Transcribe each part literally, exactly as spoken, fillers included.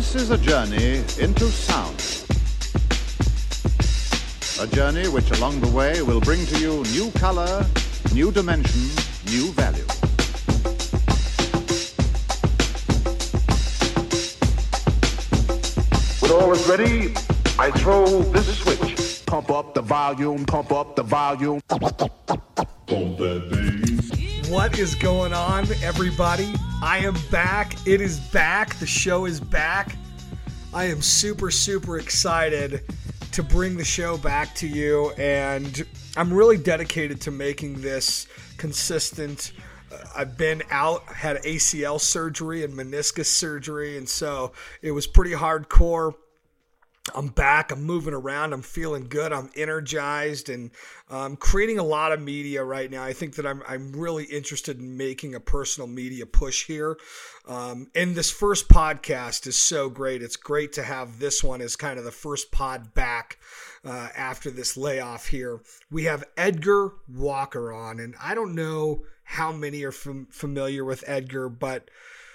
This is a journey into sound. A journey which along the way will bring to you new color, new dimension, new value. When all is ready, I throw this switch. Pump up the volume, pump up the volume. Pump that bass. What is going on, everybody? I am back. It is back. The show is back. I am super, super excited to bring the show back to you, and I'm really dedicated to making this consistent. Uh, I've been out, had A C L surgery and meniscus surgery, and so it was pretty hardcore. I'm back. I'm moving around. I'm feeling good. I'm energized, and I'm creating a lot of media right now. I think that I'm I'm really interested in making a personal media push here. Um, and this first podcast is so great. It's great to have this one as kind of the first pod back uh, after this layoff here. We have Edgar Walker on, and I don't know how many are fam- familiar with Edgar, but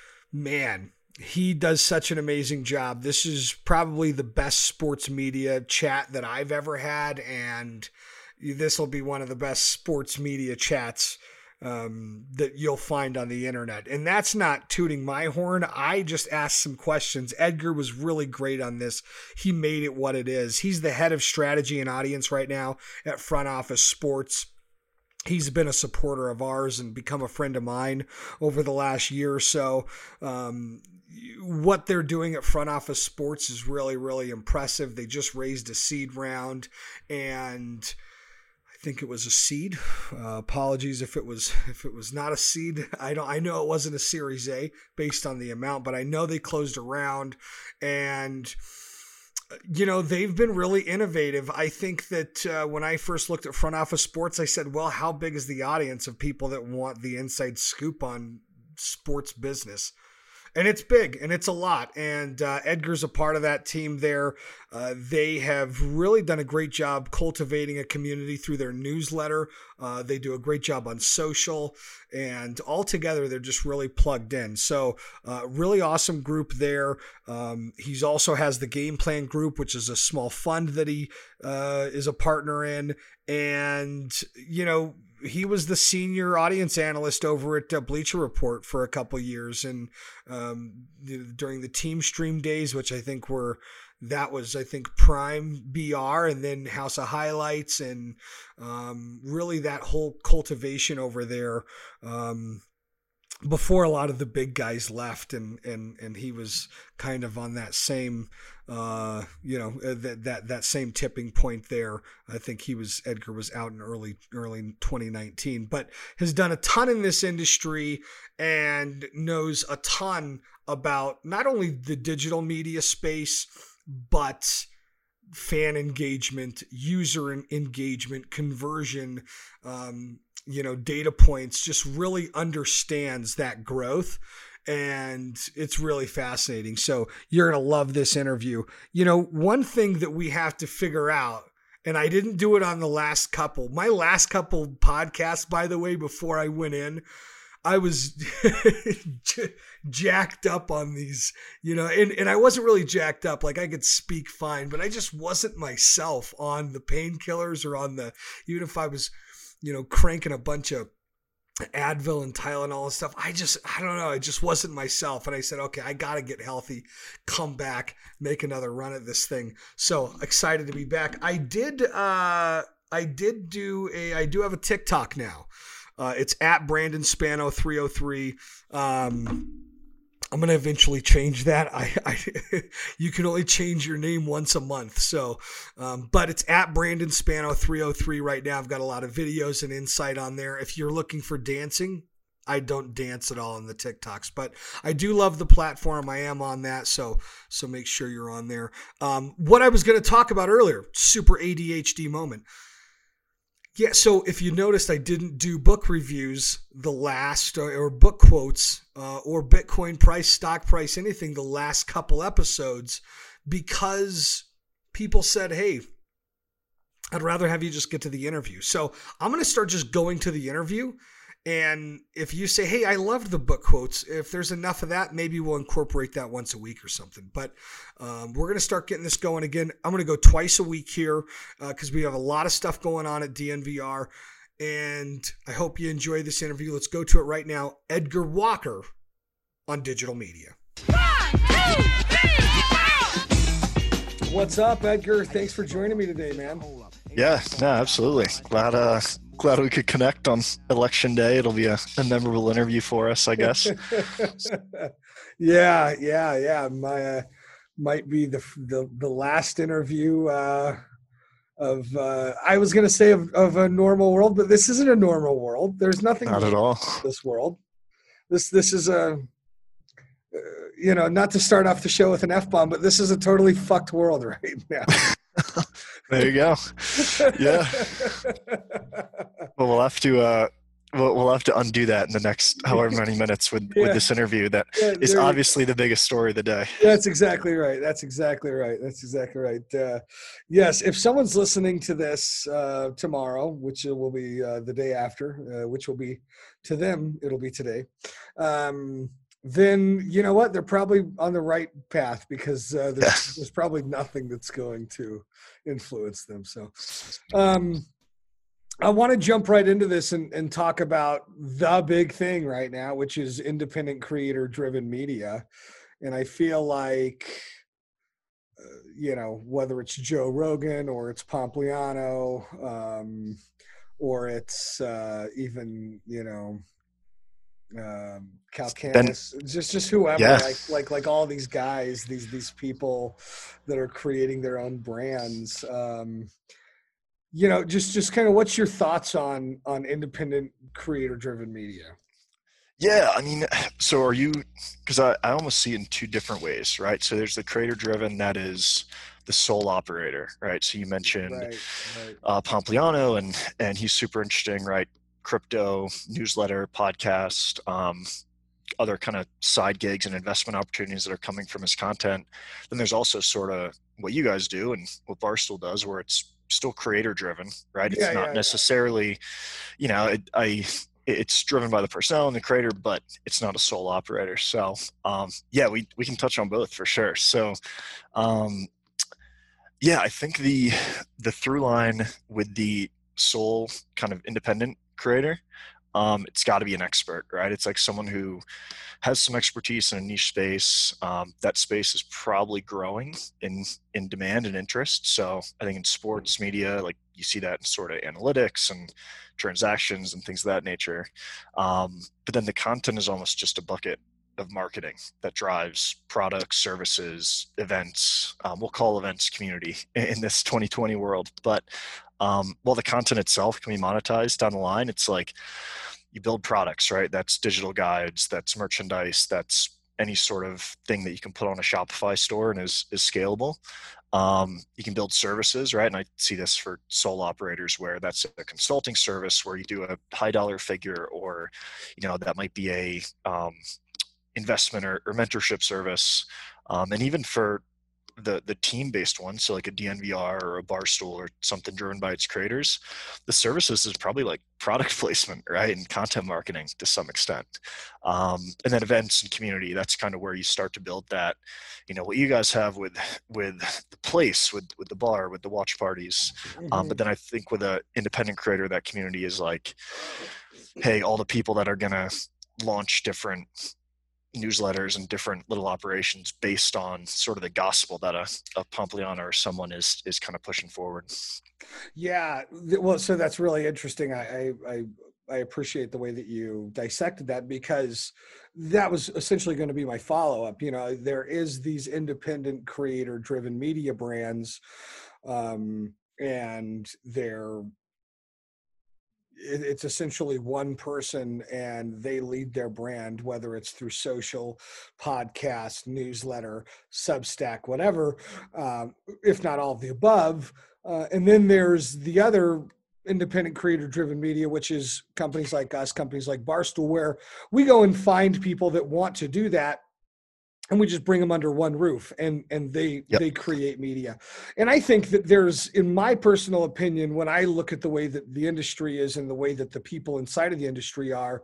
man, he does such an amazing job. This is probably the best sports media chat that I've ever had, and this will be one of the best sports media chats um, that you'll find on the internet. And that's not tooting my horn. I just asked some questions. Edgar was really great on this. He made it what it is. He's the head of strategy and audience right now at Front Office Sports. He's been a supporter of ours and become a friend of mine over the last year or so. Um, what they're doing at Front Office Sports is really, really impressive. They just raised a seed round, and I think it was a seed. Uh, apologies if it was if it was not a seed. I don't. I know it wasn't a Series A based on the amount, but I know they closed a round, and you know, they've been really innovative. I think that uh, when I first looked at Front Office Sports, I said, well, how big is the audience of people that want the inside scoop on sports business? And it's big, and it's a lot. And uh, Edgar's a part of that team there. Uh, they have really done a great job cultivating a community through their newsletter. Uh, they do a great job on social, and altogether they're just really plugged in. So uh, really awesome group there. Um, he's also has the Game Plan Group, which is a small fund that he uh, is a partner in. And, you know, he was the senior audience analyst over at uh, Bleacher Report for a couple years, and um, during the Team Stream days, which I think were that was I think Prime B R, and then House of Highlights, and um, really that whole cultivation over there um, before a lot of the big guys left, and and and he was kind of on that same uh, you know that that that same tipping point there. I think he was Edgar was out in early early twenty nineteen, but has done a ton in this industry and knows a ton about not only the digital media space, but fan engagement, user engagement, conversion, um, you know, data points, just really understands that growth. And it's really fascinating. So you're going to love this interview. You know, one thing that we have to figure out, and I didn't do it on the last couple, my last couple podcasts, by the way, before I went in, I was jacked up on these, you know, and, and I wasn't really jacked up. Like I could speak fine, but I just wasn't myself on the painkillers or on the, even if I was, you know, cranking a bunch of Advil and Tylenol and stuff. I just, I don't know. I just wasn't myself. And I said, okay, I got to get healthy, come back, make another run at this thing. So excited to be back. I did, uh, I did do a, I do have a TikTok now. Uh, it's at Brandon Spano three oh three. Um, I'm going to eventually change that. I, I you can only change your name once a month. So, um, but it's at Brandon Spano three oh three right now. I've got a lot of videos and insight on there. If you're looking for dancing, I don't dance at all on the TikToks, but I do love the platform. I am on that. So, so make sure you're on there. Um, what I was going to talk about earlier, super A D H D moment. Yeah, so if you noticed, I didn't do book reviews the last, or, or book quotes, uh, or Bitcoin price, stock price, anything the last couple episodes, because people said, hey, I'd rather have you just get to the interview. So I'm going to start just going to the interview And if you say, hey, I loved the book quotes, if there's enough of that, maybe we'll incorporate that once a week or something. But um, we're going to start getting this going again. I'm going to go twice a week here because uh, we have a lot of stuff going on at D N V R. And I hope you enjoy this interview. Let's go to it right now. Edgar Walker on Digital Media. One, two, three, four. What's up, Edgar? Thanks for joining me today, man. Yeah, no, absolutely. Glad, uh, glad we could connect on election day. It'll be a, a memorable interview for us, I guess. yeah, yeah, yeah. My uh, might be the the, the last interview uh, of uh, I was going to say of, of a normal world, but this isn't a normal world. There's nothing not at all in this world. This this is a uh, you know, not to start off the show with an F-bomb, but this is a totally fucked world right now. There you go. Yeah. Well, we'll have to uh, we'll, we'll have to undo that in the next however many minutes with, yeah. with this interview. That yeah, is obviously the biggest story of the day. That's exactly right. That's exactly right. That's exactly right. Uh, yes, if someone's listening to this uh, tomorrow, which will be uh, the day after, uh, which will be to them, it'll be today. Um, then you know what? They're probably on the right path because uh, there's, yeah. there's probably nothing that's going to influence them. So um, I want to jump right into this and, and talk about the big thing right now, which is independent creator-driven media. And I feel like, uh, you know, whether it's Joe Rogan or it's Pompliano um, or it's uh, even, you know, um Calcanis, just just whoever, yeah. like like like all these guys, these these people that are creating their own brands. Um, you know, just just kind of what's your thoughts on on independent creator driven media? Yeah, I mean, so are you? Because I I almost see it in two different ways, right? So there's the creator driven, that is the sole operator, right? So you mentioned right, right. Uh, Pompliano, and and he's super interesting, right? Crypto, newsletter, podcast, um, other kind of side gigs and investment opportunities that are coming from his content. Then there's also sort of what you guys do and what Barstool does, where it's still creator driven, right? It's yeah, not yeah, necessarily, yeah. you know, it, I, it's driven by the personnel and the creator, but it's not a sole operator. So um, yeah, we, we can touch on both for sure. So um, yeah, I think the, the through line with the sole kind of independent creator, um, it's got to be an expert, right? It's like someone who has some expertise in a niche space. Um, that space is probably growing in in demand and interest. So I think in sports media, like you see that in sort of analytics and transactions and things of that nature. Um, but then the content is almost just a bucket of marketing that drives products, services, events. Um, we'll call events community in, in this twenty twenty world, but Um, while the content itself can be monetized down the line, it's like you build products, right? That's digital guides, that's merchandise, that's any sort of thing that you can put on a Shopify store and is, is scalable. Um, you can build services, right? And I see this for sole operators where that's a consulting service where you do a high dollar figure, or, you know, that might be a um, investment or, or mentorship service. Um, and even for the the team-based one, so like a D N V R or a Barstool or something driven by its creators, the services is probably like product placement, right? And content marketing to some extent. Um, and then events and community, that's kind of where you start to build that, you know, what you guys have with with the place, with with the bar, with the watch parties. Mm-hmm. Um, but then I think with an independent creator, that community is like, hey, all the people that are gonna launch different newsletters and different little operations based on sort of the gospel that a, a Pompliano or someone is is kind of pushing forward. Yeah, well, so that's really interesting. I I I appreciate the way that you dissected that, because that was essentially going to be my follow-up. You know, there is these independent creator-driven media brands, um, and they're it's essentially one person and they lead their brand, whether it's through social, podcast, newsletter, Substack, whatever, um, if not all of the above. Uh, and then there's the other independent creator-driven media, which is companies like us, companies like Barstool, where we go and find people that want to do that. and we just bring them under one roof, and and they Yep. they create media. And I think that there's, in my personal opinion, when I look at the way that the industry is and the way that the people inside of the industry are,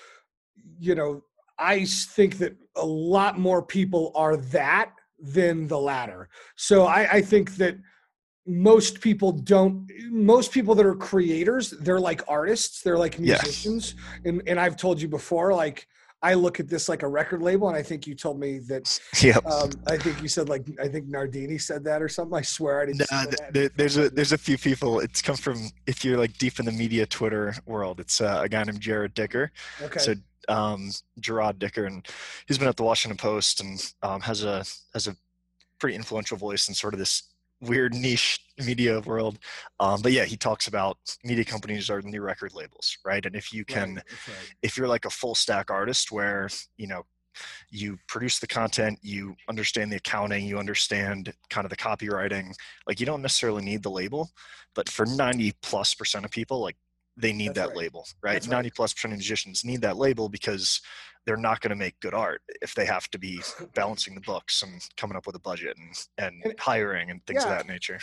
you know, I think that a lot more people are that than the latter. So I, I think that most people don't, most people that are creators, they're like artists, they're like Yeah. musicians. And, and I've told you before, like, I look at this like a record label, and I think you told me that, Yep. um, I think you said, like, I think Nardini said that or something. I swear I didn't Nah, say th- that. there, there's a there's a few people. It's come from, if you're like deep in the media Twitter world, it's uh, a guy named Jared Dicker. Okay. So um, Gerard Dicker, and he's been at the Washington Post and um, has a has a pretty influential voice in sort of this weird niche media world. Um, but yeah, he talks about media companies are the new record labels, right? And if you can, Right, that's right. if you're like a full stack artist where, you know, you produce the content, you understand the accounting, you understand kind of the copywriting, like you don't necessarily need the label, but for ninety plus percent of people, like they need That's that right. label, right? That's right. ninety plus percent of musicians need that label because they're not going to make good art if they have to be balancing the books and coming up with a budget and, and, And- hiring and things yeah. of that nature.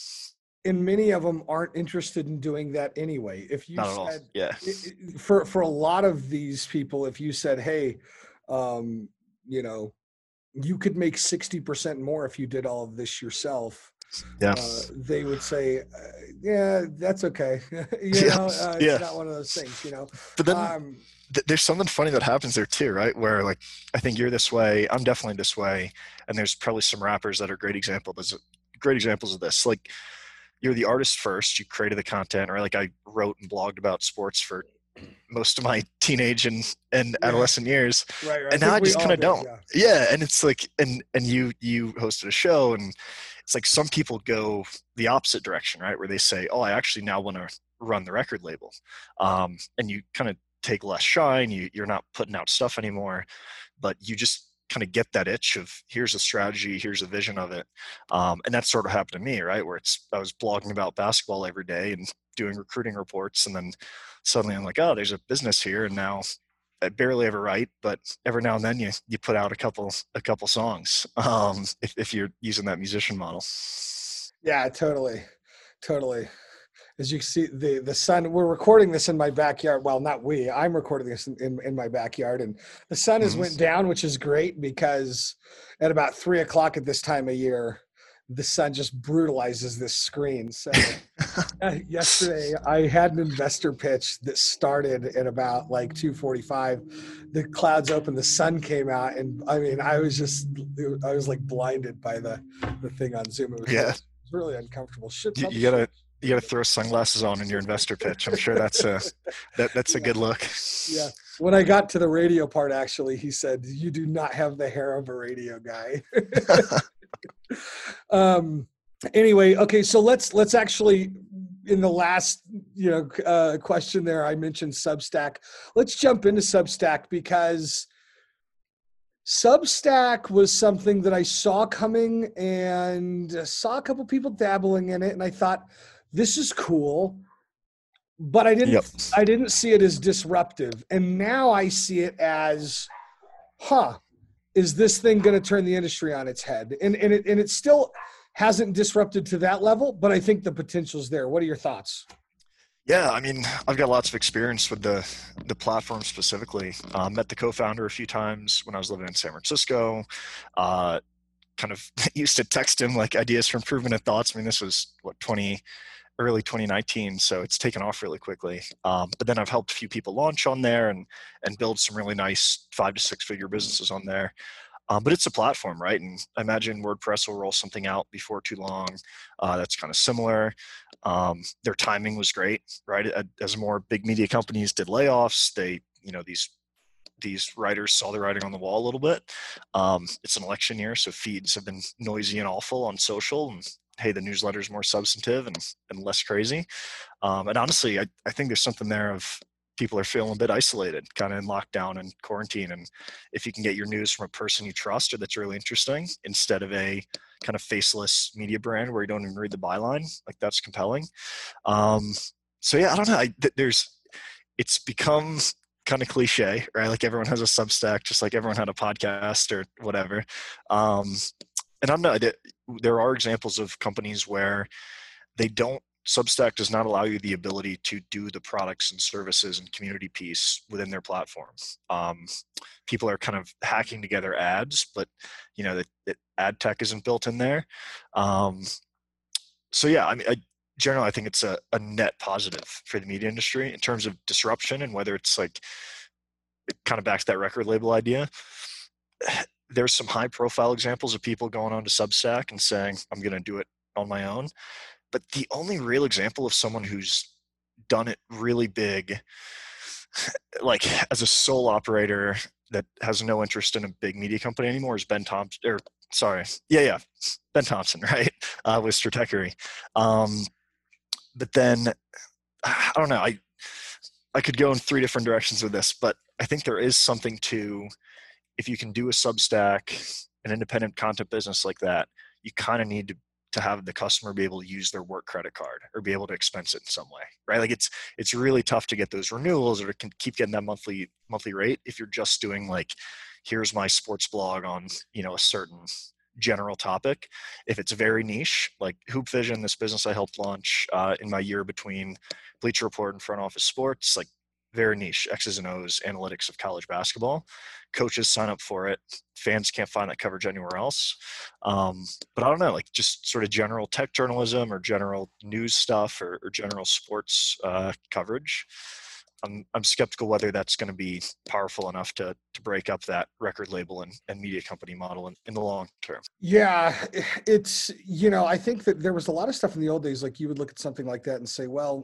And many of them aren't interested in doing that anyway. If you Not at all. said, Yeah. it- it- for for a lot of these people, if you said, hey, um, you know, you could make sixty percent more if you did all of this yourself, Yeah. uh, they would say, uh, yeah, that's okay. you Yeah, know, uh, it's yeah. not one of those things, you know. But then Um, th- there's something funny that happens there too, right? Where like, I think you're this way, I'm definitely this way. And there's probably some rappers that are great examples, great examples of this. Like you're the artist first, you created the content, or like I wrote and blogged about sports for most of my teenage and, and Yeah. adolescent years. right, right. And now think I we just all kind of did, don't. yeah. Yeah. And it's like, and, and you, you hosted a show, and it's like some people go the opposite direction, right? Where they say, oh, I actually now want to run the record label. Um, and you kind of take less shine. You, you're not putting out stuff anymore, but you just kind of get that itch of here's a strategy, here's a vision of it. Um, and that sort of happened to me, right? Where it's, I was blogging about basketball every day and doing recruiting reports. And then suddenly I'm like, oh, there's a business here. And now I barely ever write, but every now and then you, you put out a couple, a couple songs. Um, if, if you're using that musician model. Yeah, totally. Totally. As you can see, the, the sun, we're recording this in my backyard. Well, not we, I'm recording this in, in, in my backyard, and the sun has Mhm. went down, which is great because at about three o'clock at this time of year, the sun just brutalizes this screen. So uh, yesterday I had an investor pitch that started at about like two forty-five. The clouds opened, the sun came out, and I mean, I was just, I was like blinded by the, the thing on Zoom. It was, Yeah. really, it was really uncomfortable. Should You, probably you gotta, should- you gotta throw sunglasses on in your investor pitch. I'm sure that's a, that, that's a good look. Yeah. When I got to the radio part, actually, he said, "You do not have the hair of a radio guy." um. Anyway, okay. So let's let's actually, in the last you know uh, question there, I mentioned Substack. Let's jump into Substack because Substack was something that I saw coming and saw a couple people dabbling in it, and I thought, this is cool. But I didn't Yep. I didn't see it as disruptive. And now I see it as, huh, is this thing going to turn the industry on its head? And and it and it still hasn't disrupted to that level, but I think the potential's there. What are your thoughts? Yeah, I mean, I've got lots of experience with the the platform specifically. Uh, met the co-founder a few times when I was living in San Francisco. Uh, kind of used to text him like ideas for improvement and thoughts. I mean, this was what twenty early twenty nineteen, so it's taken off really quickly. Um, but then I've helped a few people launch on there and and build some really nice five to six figure businesses on there. Um, but it's a platform, right? And I imagine WordPress will roll something out before too long. Uh, that's kind of similar. Um, their timing was great, right? As more big media companies did layoffs, they, you know, these these writers saw the writing on the wall a little bit. Um, it's an election year, so feeds have been noisy and awful on social. And hey, the newsletter is more substantive and, and less crazy. Um, and honestly, I, I think there's something there of people are feeling a bit isolated, kind of in lockdown and quarantine. And if you can get your news from a person you trust or that's really interesting, instead of a kind of faceless media brand where you don't even read the byline, like that's compelling. Um, so yeah, I don't know. I, th- there's, it's become kind of cliche, right? Like everyone has a Substack, just like everyone had a podcast or whatever. Um, and I'm not, there are examples of companies where they don't, Substack does not allow you the ability to do the products and services and community piece within their platform. Um, people are kind of hacking together ads, but you know, the, the ad tech isn't built in there. Um, so yeah, I mean, I, generally, I think it's a, a net positive for the media industry in terms of disruption, and whether it's like, it kind of backs that record label idea. There's some high profile examples of people going on to Substack and saying, I'm going to do it on my own. But the only real example of someone who's done it really big, like as a sole operator that has no interest in a big media company anymore, is Ben Thompson, or sorry, yeah, yeah, Ben Thompson, right, uh, with Stratechery. Um, but then, I don't know, I I could go in three different directions with this, but I think there is something to, if you can do a Substack, an independent content business like that, you kind of need to to have the customer be able to use their work credit card or be able to expense it in some way, right? Like it's, it's really tough to get those renewals or to can keep getting that monthly, monthly rate if you're just doing like, here's my sports blog on, you know, a certain general topic. If it's very niche, like Hoop Vision, this business I helped launch uh, in my year between Bleacher Report and Front Office Sports, like very niche, X's and O's, analytics of college basketball. Coaches sign up for it. Fans can't find that coverage anywhere else. Um, but I don't know, like just sort of general tech journalism or general news stuff or, or general sports uh, coverage. I'm, I'm skeptical whether that's going to be powerful enough to to break up that record label and, and media company model in, in the long term. Yeah, it's, you know, I think that there was a lot of stuff in the old days, like you would look at something like that and say, well,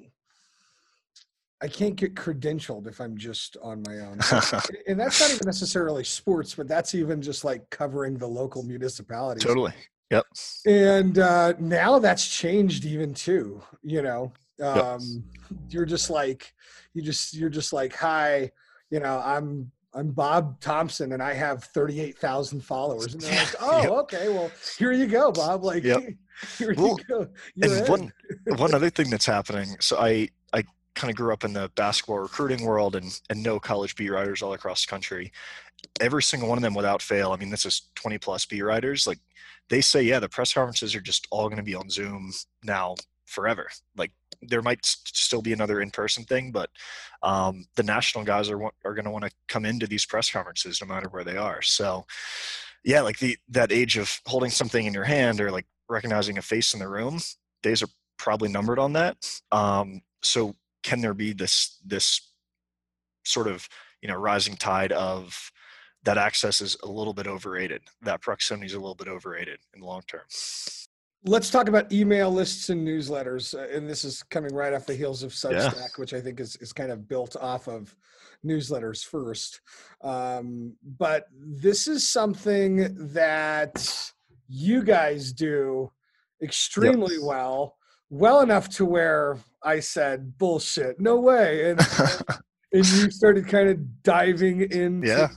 I can't get credentialed if I'm just on my own. And that's not even necessarily sports, but that's even just like covering the local municipalities. Totally. Yep. And uh, now that's changed even too, you know, um, yep. You're just like, you just, you're just like, hi, you know, I'm, I'm Bob Thompson and I have thirty-eight thousand followers. And they're like, oh, yep. Okay, well, here you go, Bob. Like, yep. Here well, you go. You're and one, one other thing that's happening. So I, I, kind of grew up in the basketball recruiting world and, and know college beat writers all across the country. Every single one of them without fail, I mean, this is twenty plus beat writers. Like they say, yeah, the press conferences are just all going to be on Zoom now forever. Like there might st- still be another in-person thing, but um, the national guys are, are going to want to come into these press conferences no matter where they are. So yeah, like the, that age of holding something in your hand or like recognizing a face in the room, days are probably numbered on that. Um, so can there be this this sort of, you know, rising tide of that access is a little bit overrated, that proximity is a little bit overrated in the long term? Let's talk about email lists and newsletters. Uh, and this is coming right off the heels of Substack, yeah. which I think is, is kind of built off of newsletters first. Um, but this is something that you guys do extremely yep. well. Well enough to where I said, bullshit, no way. And, and you started kind of diving into yeah.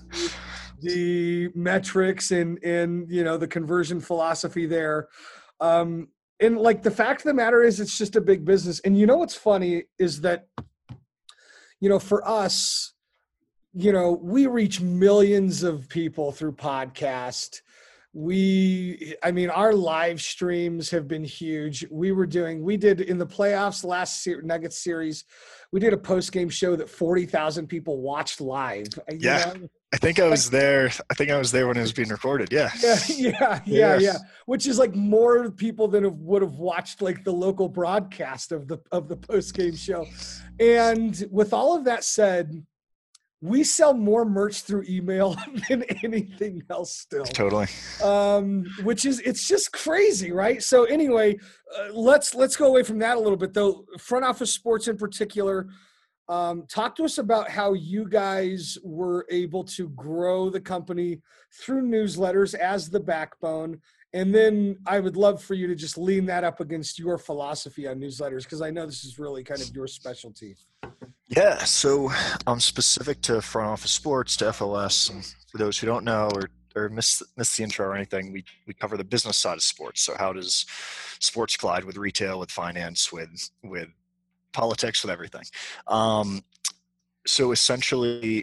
the metrics and, and, you know, the conversion philosophy there. Um, and like the fact of the matter is it's just a big business. And you know, what's funny is that, you know, for us, you know, we reach millions of people through podcast. We, I mean, our live streams have been huge. We were doing, we did in the playoffs last ser- Nuggets series, we did a post-game show that forty thousand people watched live. Yeah. You know? I think I was there. I think I was there when it was being recorded. Yeah. Yeah. Yeah. Yeah. Yeah. yeah. Which is like more people than have, would have watched like the local broadcast of the, of the post-game show. And with all of that said, we sell more merch through email than anything else still. Totally. Um, which is, it's just crazy, right? So anyway, uh, let's, let's go away from that a little bit though. Front Office Sports in particular, um, talk to us about how you guys were able to grow the company through newsletters as the backbone. And then I would love for you to just lean that up against your philosophy on newsletters, because I know this is really kind of your specialty. Yeah, so um, specific to Front Office Sports, to F O S, and for those who don't know or, or miss, miss the intro or anything, we, we cover the business side of sports. So how does sports collide with retail, with finance, with with politics, with everything? Um, so essentially,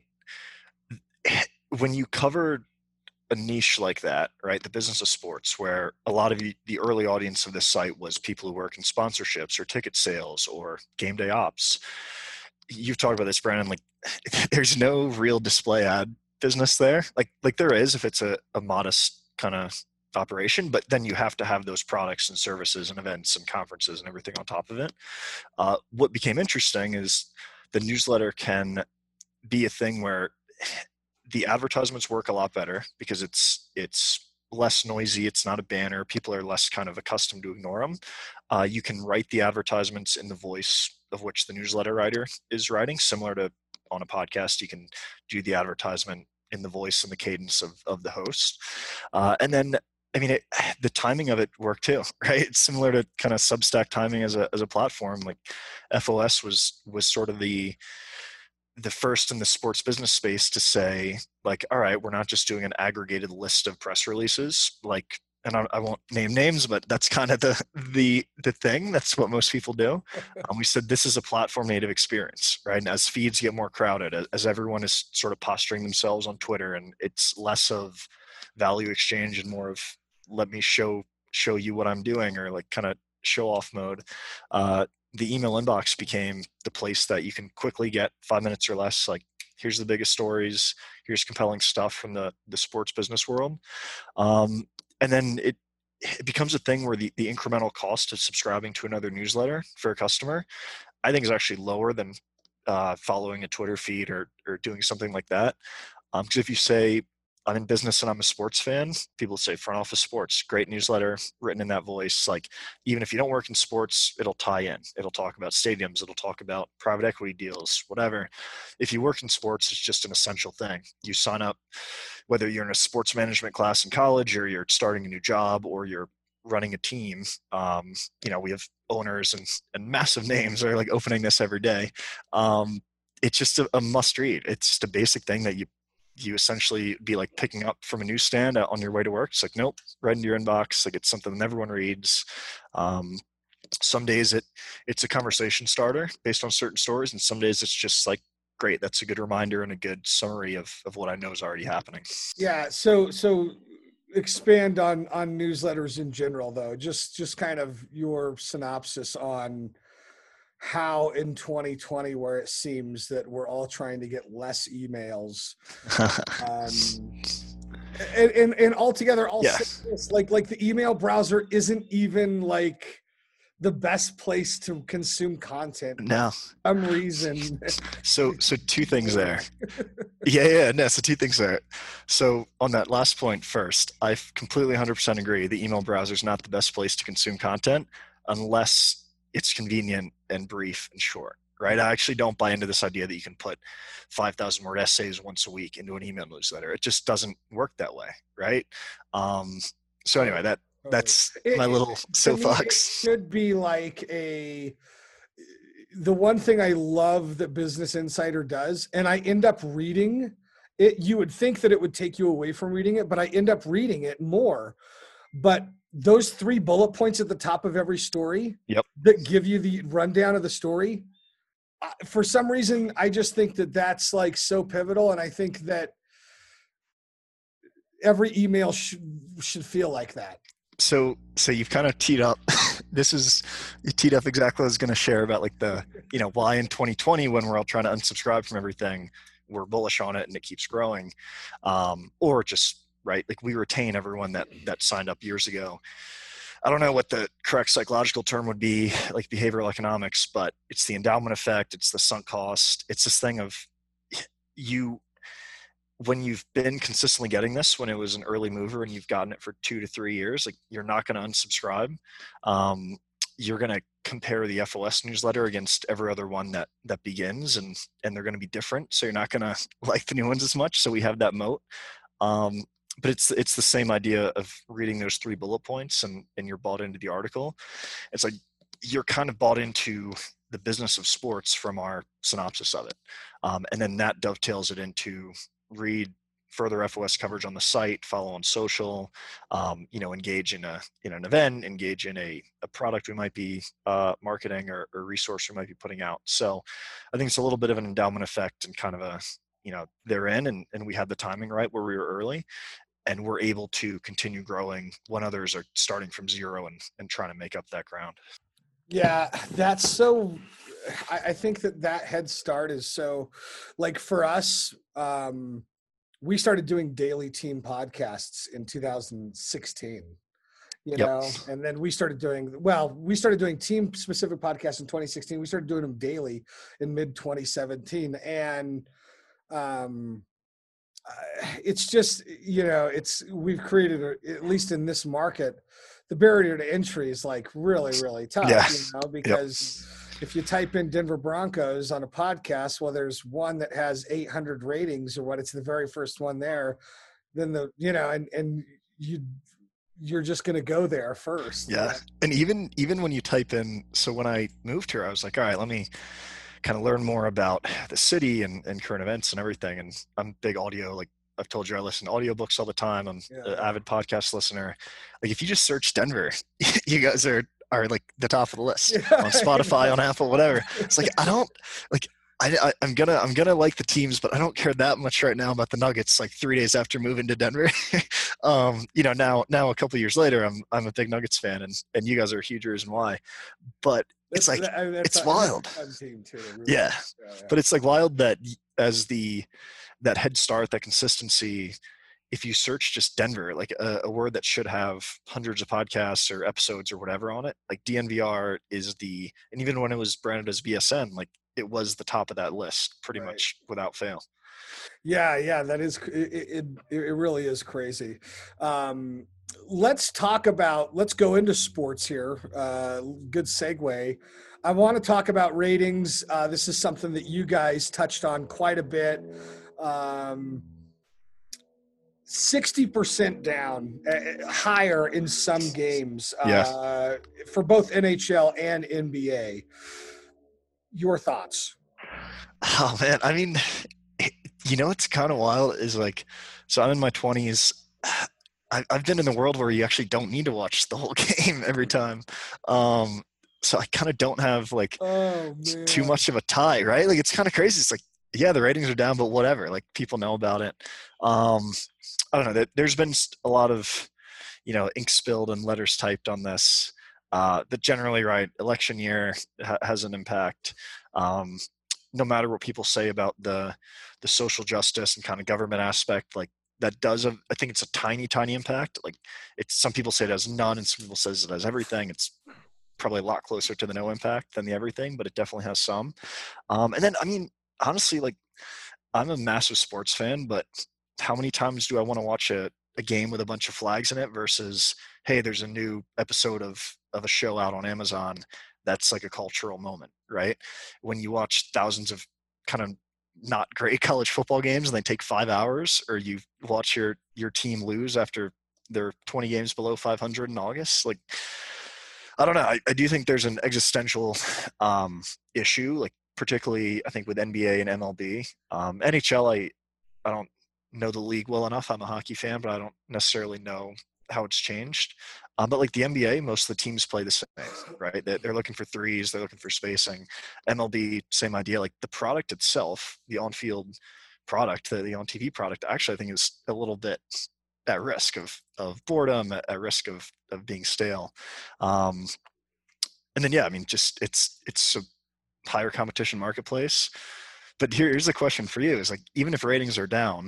when you cover a niche like that, right, the business of sports, where a lot of the, the early audience of this site was people who work in sponsorships or ticket sales or game day ops. You've talked about this, Brandon, like there's no real display ad business there. Like, like there is if it's a, a modest kind of operation, but then you have to have those products and services and events and conferences and everything on top of it. Uh, what became interesting is the newsletter can be a thing where the advertisements work a lot better because it's it's less noisy. It's not a banner. People are less kind of accustomed to ignore them. Uh, you can write the advertisements in the voice of which the newsletter writer is writing, similar to on a podcast. You can do the advertisement in the voice and the cadence of, of the host. Uh, and then, I mean, it, the timing of it worked too, right? It's similar to kind of Substack timing as a as a platform. Like F O S was was sort of the the first in the sports business space to say, like, all right, we're not just doing an aggregated list of press releases, like, and I, I won't name names, but that's kind of the the the thing. That's what most people do. Um, we said this is a platform native experience, right? And as feeds get more crowded, as, as everyone is sort of posturing themselves on Twitter, and it's less of value exchange and more of let me show show you what I'm doing, or like kind of show off mode. Uh, the email inbox became the place that you can quickly get five minutes or less. Like, here's the biggest stories, here's compelling stuff from the, the sports business world. Um, and then it, it becomes a thing where the, the incremental cost of subscribing to another newsletter for a customer, I think is actually lower than uh, following a Twitter feed or, or doing something like that. Um, 'cause if you say, I'm in business and I'm a sports fan, people say Front Office Sports, great newsletter written in that voice. Like, even if you don't work in sports, it'll tie in. It'll talk about stadiums. It'll talk about private equity deals, whatever. If you work in sports, it's just an essential thing. You sign up, whether you're in a sports management class in college or you're starting a new job or you're running a team. Um, you know, we have owners and, and massive names that are like opening this every day. Um, it's just a, a must read. It's just a basic thing that you you essentially be like picking up from a newsstand on your way to work. It's like, nope, right into your inbox. Like, it's something that everyone reads. Um, some days it it's a conversation starter based on certain stories. And some days it's just like, great, that's a good reminder and a good summary of, of what I know is already happening. Yeah. So, so expand on, on newsletters in general though, just, just kind of your synopsis on how in twenty twenty, where it seems that we're all trying to get less emails, um, and, and, and altogether, all Yeah. this, like, like the email browser isn't even like the best place to consume content. No. For some reason. So, so two things there. Yeah, yeah, no, so two things there. So on that last point first, I completely one hundred percent agree. The email browser is not the best place to consume content unless it's convenient and brief and short, right? I actually don't buy into this idea that you can put five thousand word essays once a week into an email newsletter. It just doesn't work that way, right? Um, so anyway, that that's It- my little to me, it soapbox. should be like a, the one thing I love that Business Insider does, and I end up reading it. You would think that it would take you away from reading it, but I end up reading it more. But those three bullet points at the top of every story Yep. that give you the rundown of the story, uh, for some reason, I just think that that's like so pivotal. And I think that every email should, should feel like that. So, so you've kind of teed up. This is you teed up exactly what I was going to share about, like the, you know, why in twenty twenty, when we're all trying to unsubscribe from everything, we're bullish on it and it keeps growing, um, or just right, like we retain everyone that that signed up years ago. I don't know what the correct psychological term would be, like behavioral economics, but it's the endowment effect. It's the sunk cost. It's this thing of you. When you've been consistently getting this, when it was an early mover and you've gotten it for two to three years, like you're not going to unsubscribe. Um, you're going to compare the F O S newsletter against every other one that that begins, and and they're going to be different. So you're not going to like the new ones as much. So we have that moat. Um, but it's it's the same idea of reading those three bullet points and and you're bought into the article. It's like you're kind of bought into the business of sports from our synopsis of it, um, and then that dovetails it into read further F O S coverage on the site, follow on social, um, you know, engage in a in an event, engage in a, a product we might be uh, marketing or, or resource we might be putting out. So I think it's a little bit of an endowment effect and kind of a, you know, they're in and, and we had the timing right where we were early and we're able to continue growing when others are starting from zero and, and trying to make up that ground. Yeah, that's so, I, I think that that head start is so, like for us, um, we started doing daily team podcasts in two thousand sixteen, you Yep. know, and then we started doing, well, we started doing team specific podcasts in twenty sixteen. We started doing them daily in mid twenty seventeen. And, um, uh, it's just, you know, it's, we've created, a, at least in this market, the barrier to entry is like really, really tough, Yeah. you know, because yep. if you type in Denver Broncos on a podcast, well, there's one that has eight hundred ratings or what, it's the very first one there, then the, you know, and, and you, you're just going to go there first. Yeah. Right? And even, even when you type in, so when I moved here, I was like, all right, let me kind of learn more about the city and, and current events and everything. And I'm big audio, like I've told you, I listen to audiobooks all the time. I'm Yeah. an avid podcast listener. Like if you just search Denver, you guys are, are like the top of the list Yeah. on Spotify, on Apple, whatever. It's like, I don't like, I, I, I'm gonna, I'm gonna like the teams, but I don't care that much right now about the Nuggets. Like three days after moving to Denver, um, you know, now, now a couple of years later, I'm, I'm a big Nuggets fan, and and you guys are a huge reason why. But it's like, I mean, that's it's a- wild. that's a fun team too, really. Yeah. Yeah, yeah. But it's like wild that as the, that head start, that consistency, if you search just Denver, like a, a word that should have hundreds of podcasts or episodes or whatever on it, like D N V R is the, and even when it was branded as B S N, like it was the top of that list pretty Right. much without fail. Yeah, yeah, that is it. It, it really is crazy. Um, let's talk about. Let's go into sports here. Uh, good segue. I want to talk about ratings. Uh, this is something that you guys touched on quite a bit. Um, sixty percent down, uh, higher in some games uh, Yeah. for both N H L and N B A. Your thoughts? Oh man, I mean, you know what's kind of wild is like, so I'm in my twenties. I, I've been in the world where you actually don't need to watch the whole game every time. Um, so I kind of don't have like Oh man, too much of a tie, right? Like it's kind of crazy. It's like, yeah, the ratings are down, but whatever. Like people know about it. Um, I don't know. There, there's been a lot of, you know, ink spilled and letters typed on this. Uh, but generally, right, election year ha- has an impact. Um, no matter what people say about the the social justice and kind of government aspect, like that does, a, I think it's a tiny, tiny impact. Like it's, some people say it has none, and some people says it has everything. It's probably a lot closer to the no impact than the everything, but it definitely has some. Um, and then, I mean, honestly, like I'm a massive sports fan, but how many times do I want to watch a, a game with a bunch of flags in it versus, hey, there's a new episode of of a show out on Amazon that's like a cultural moment, right? When you watch thousands of kind of not great college football games and they take five hours, or you watch your your team lose after they're twenty games below five hundred in August, like I don't know. I, I do think there's an existential um, issue, like particularly I think with N B A and M L B. Um, N H L, I I don't know the league well enough. I'm a hockey fan, but I don't necessarily know how it's changed. Um, but like the N B A, most of the teams play the same, right? They're, they're looking for threes, they're looking for spacing. M L B, same idea. Like the product itself, the on-field product, the, the on-T V product, actually I think is a little bit at risk of of boredom, at, at risk of of being stale. Um, and then yeah, I mean, just it's it's a higher competition marketplace. But here, here's the question for you: is like, even if ratings are down,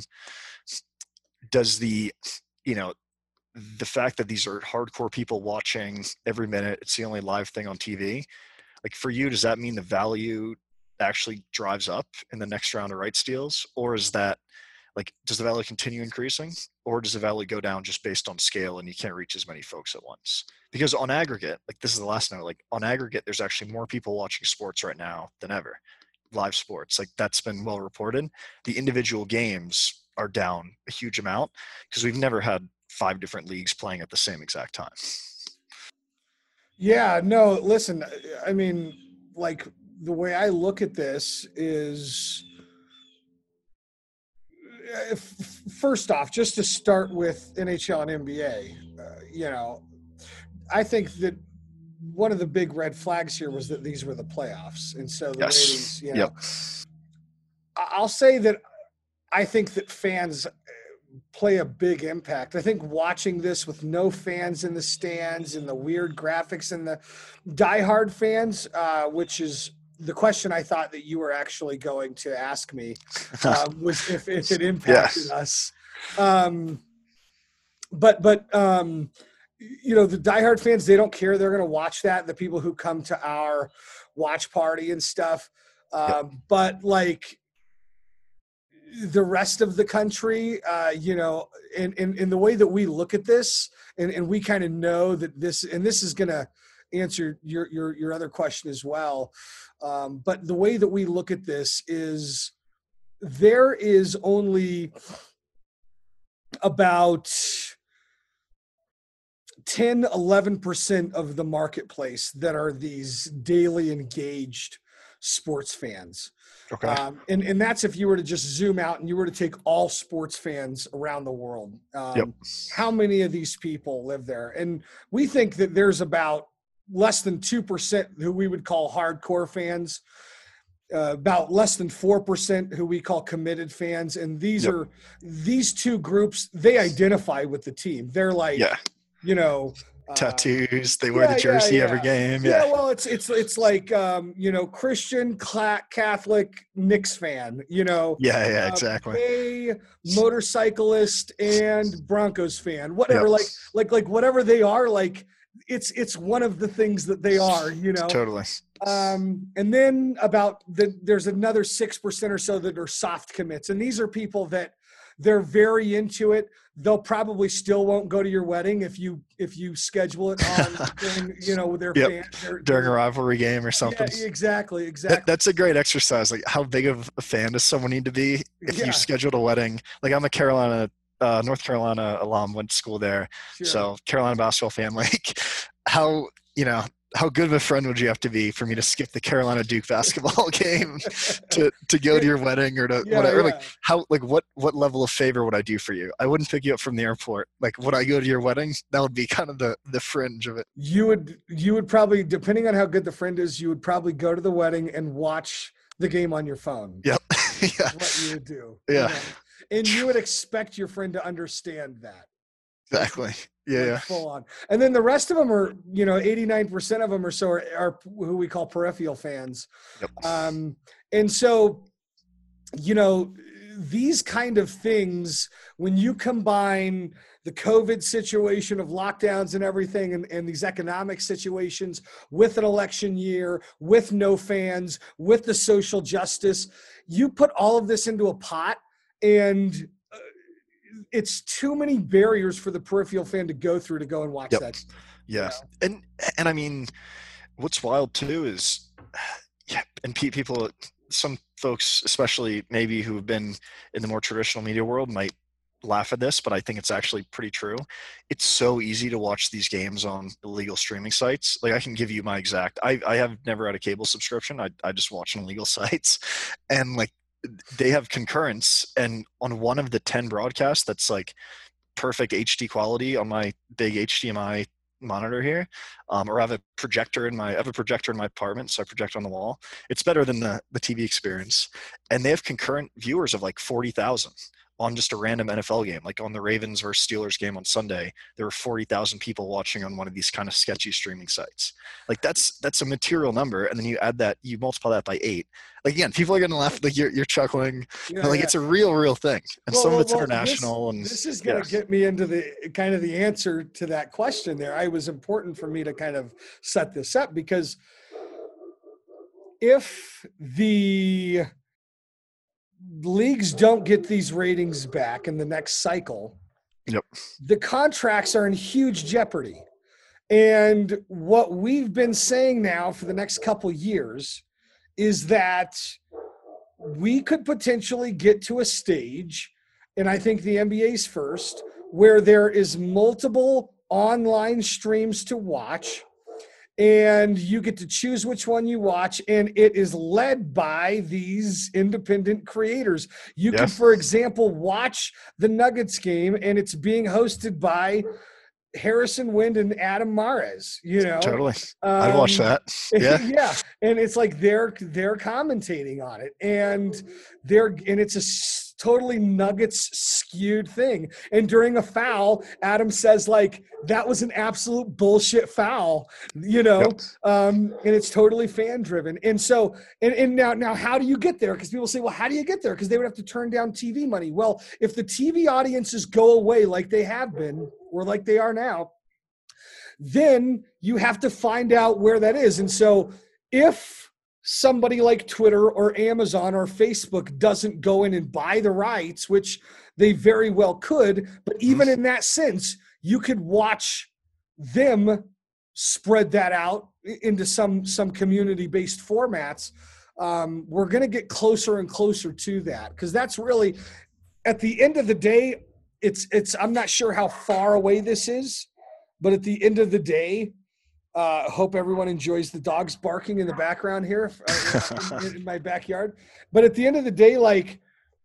does the, you know, the fact that these are hardcore people watching every minute, it's the only live thing on T V, like for you, does that mean the value actually drives up in the next round of rights deals? Or is that like, does the value continue increasing, or does the value go down just based on scale and you can't reach as many folks at once? Because on aggregate, like this is the last note, like on aggregate, there's actually more people watching sports right now than ever. Live sports, like that's been well reported. The individual games are down a huge amount because we've never had five different leagues playing at the same exact time. Yeah, no, listen, I mean, like the way I look at this is uh, f- first off, just to start with N H L and N B A, uh, you know, I think that one of the big red flags here was that these were the playoffs. And so the Yes. ratings, you know, Yep. I- I'll say that I think that fans play a big impact. I think watching this with no fans in the stands and the weird graphics and the diehard fans, uh, which is the question I thought that you were actually going to ask me, uh, was if, if it impacted Yes. us. Um, but, but, um, you know, the diehard fans, they don't care. They're going to watch that. The people who come to our watch party and stuff. Um, Yep. But like the rest of the country, uh, you know, in, in, in the way that we look at this, and, and we kind of know that this, and this is going to answer your, your, your other question as well. Um, but the way that we look at this is there is only about ten, eleven percent of the marketplace that are these daily engaged sports fans. Okay. Um, and, and that's if you were to just zoom out and you were to take all sports fans around the world. Um, Yep. How many of these people live there? And we think that there's about less than two percent who we would call hardcore fans, uh, about less than four percent who we call committed fans. And these Yep. are, these two groups, they identify with the team. They're like, Yeah. you know, uh, Tattoos. They wear yeah, the jersey yeah, every yeah. game. Yeah, Yeah. well, it's it's it's like um, you know, Christian, Cla- Catholic, Knicks fan. You know, Yeah. Yeah. uh, Exactly. gay, motorcyclist, and Broncos fan. Whatever, Yep. like like like whatever they are, like it's it's one of the things that they are. You know, Totally. um, and then about the there's another six percent or so that are soft commits, and these are people that they're very into it. They'll probably still won't go to your wedding if you if you schedule it on during, you know, their Yep. fan their, During a their- rivalry game or something. Yeah, exactly, exactly. That, that's a great exercise. Like, how big of a fan does someone need to be if Yeah. you scheduled a wedding? Like, I'm a Carolina, uh, North Carolina alum, went to school there, Sure. so Carolina basketball fan. Like, how you know how good of a friend would you have to be for me to skip the Carolina Duke basketball game to to go to your wedding or to Yeah, whatever? yeah. Like, how like what what level of favor would I do for you? I wouldn't pick you up from the airport. Like, would I go to your wedding? That would be kind of the the fringe of it. you would you would probably, depending on how good the friend is, you would probably go to the wedding and watch the game on your phone. Yep. yeah. Is what you would do. you Yeah. know? And you would expect your friend to understand that. Exactly. Yeah. Like, Yeah. full on. And then the rest of them are, you know, eighty-nine percent of them or so are, are who we call peripheral fans. Yep. Um, and so, you know, these kind of things, when you combine the COVID situation of lockdowns and everything, and, and these economic situations with an election year, with no fans, with the social justice, you put all of this into a pot, and uh, it's too many barriers for the peripheral fan to go through to go and watch Yep. that. Yeah. And and I mean, what's wild too is, yeah, and pe- people, some folks, especially maybe who have been in the more traditional media world, might laugh at this, but I think it's actually pretty true. It's so easy to watch these games on illegal streaming sites. Like, I can give you my exact, I, I have never had a cable subscription. I, I just watch on illegal sites, and like, they have concurrence, and on one of the ten broadcasts that's like perfect H D quality on my big H D M I monitor here, um, or I have a projector in my I have a projector in my apartment, so I project on the wall. It's better than the the T V experience, and they have concurrent viewers of like forty thousand on just a random N F L game. Like on the Ravens versus Steelers game on Sunday, there were forty thousand people watching on one of these kind of sketchy streaming sites. Like, that's that's a material number, and then you add that, you multiply that by eight. Like, again, people are gonna laugh. Like, you're you're chuckling. Yeah, But like, yeah. it's a real, real thing, and Well, some well, of it's well, international. This, and this is going to yeah. get me into the kind of the answer to that question there. I was important for me to kind of set this up, because if the leagues don't get these ratings back in the next cycle, Yep. the contracts are in huge jeopardy. And what we've been saying now for the next couple years is that we could potentially get to a stage, and I think the N B A's first, where there is multiple online streams to watch, and you get to choose which one you watch, and it is led by these independent creators. You Yeah. can, for example, watch the Nuggets game, and it's being hosted by Harrison Wind and Adam Mares, you know. Totally. I'd watch Um, that. Yeah. yeah, and it's like they're they're commentating on it, and they're and it's a s- totally Nuggets skewed thing. And during a foul, Adam says like that was an absolute bullshit foul, you know. Yep. Um, and it's totally fan driven. And so, and, and now now how do you get there? Because people say, well, how do you get there? Because they would have to turn down T V money. Well, if the T V audiences go away like they have been or like they are now, then you have to find out where that is. And so if somebody like Twitter or Amazon or Facebook doesn't go in and buy the rights, which they very well could, but even in that sense, you could watch them spread that out into some some community-based formats. Um, we're going to get closer and closer to that, because that's really, at the end of the day, it's it's I'm not sure how far away this is, but at the end of the day, uh, hope everyone enjoys the dogs barking in the background here uh, in, in my backyard. But at the end of the day, like,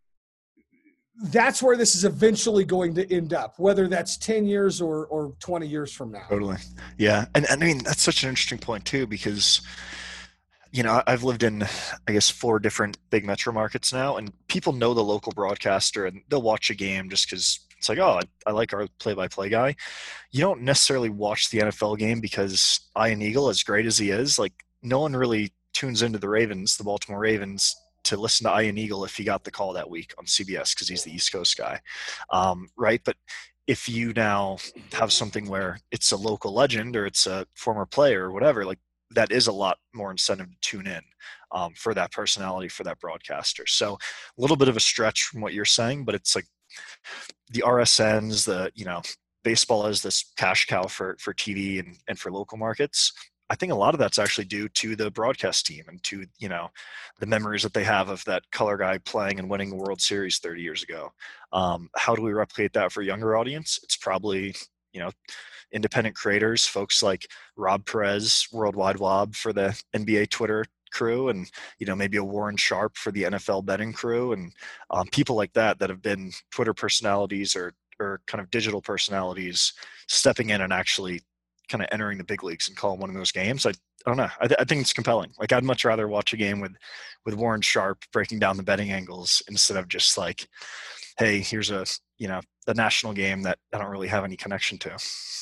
that's where this is eventually going to end up, whether that's ten years or or twenty years from now. Totally. Yeah. And, and I mean, that's such an interesting point too, because, you know, I've lived in, I guess, four different big metro markets now, and people know the local broadcaster and they'll watch a game just because it's like, oh, I, I like our play-by-play guy. You don't necessarily watch the N F L game because Ian Eagle, as great as he is, like, no one really tunes into the Ravens, the Baltimore Ravens, to listen to Ian Eagle if he got the call that week on C B S because he's the East Coast guy, um, right? But if you now have something where it's a local legend or it's a former player or whatever, like, that is a lot more incentive to tune in um, for that personality, for that broadcaster. So a little bit of a stretch from what you're saying, but it's like the R S Ns, the, you know, baseball is this cash cow for, for T V and, and for local markets. I think a lot of that's actually due to the broadcast team and to, you know, the memories that they have of that color guy playing and winning the World Series thirty years ago. Um, how do we replicate that for a younger audience? It's probably, you know, independent creators, folks like Rob Perez, Worldwide Wob for the N B A Twitter crew, and, you know, maybe a Warren Sharp for the N F L betting crew, and um, people like that that have been Twitter personalities or or kind of digital personalities stepping in and actually kind of entering the big leagues and calling one of those games. I, I don't know. I, th- I think it's compelling. Like, I'd much rather watch a game with, with Warren Sharp breaking down the betting angles instead of just like, hey, here's a, you know, a national game that I don't really have any connection to.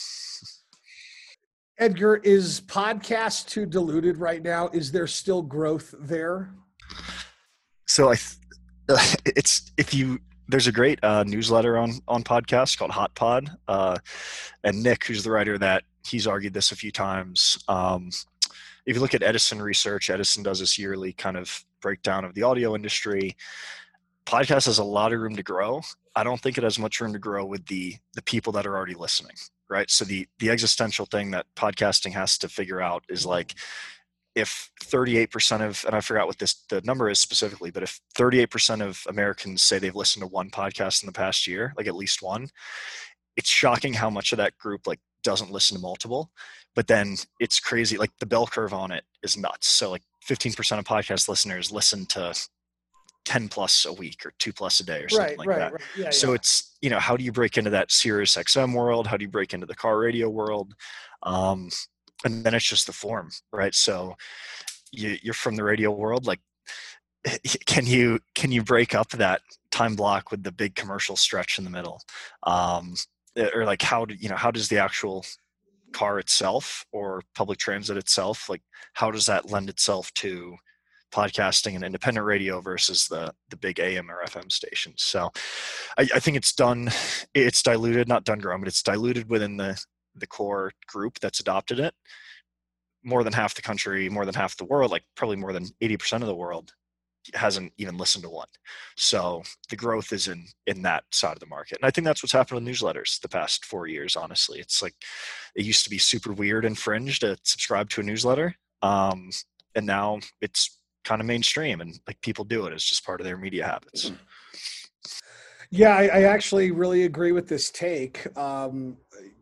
Edgar, is podcast too diluted right now? Is there still growth there? So I, th- it's, if you, there's a great uh, newsletter on, on podcasts called Hot Pod. Uh, and Nick, who's the writer of that, he's argued this a few times. Um, if you look at Edison Research, Edison does this yearly kind of breakdown of the audio industry. Podcast has a lot of room to grow. I don't think it has much room to grow with the the people that are already listening, right? So the the existential thing that podcasting has to figure out is, like, if thirty-eight percent of, and I forgot what this the number is specifically, but if thirty-eight percent of Americans say they've listened to one podcast in the past year, like at least one, it's shocking how much of that group, like, doesn't listen to multiple. But then it's crazy, like, the bell curve on it is nuts. So like fifteen percent of podcast listeners listen to ten plus a week or two plus a day or something Right, like right, that. right. Yeah, So yeah. it's, you know, how do you break into that Sirius X M world? How do you break into the car radio world? Um, and then it's just the form, right? So you, you're from the radio world, like, can you can you break up that time block with the big commercial stretch in the middle? Um, or like, how do you know how does the actual car itself or public transit itself, like, how does that lend itself to podcasting and independent radio versus the the big A M or F M stations? So I, I think it's done, it's diluted, not done growing, but it's diluted within the the core group that's adopted it. More than half the country, more than half the world, like probably more than eighty percent of the world, hasn't even listened to one. So the growth is in in that side of the market. And I think that's what's happened with newsletters the past four years, honestly. It's like, it used to be super weird and fringe to subscribe to a newsletter. Um, and now it's kind of mainstream, and like, people do it as just part of their media habits. Yeah, I, I actually really agree with this take. Um,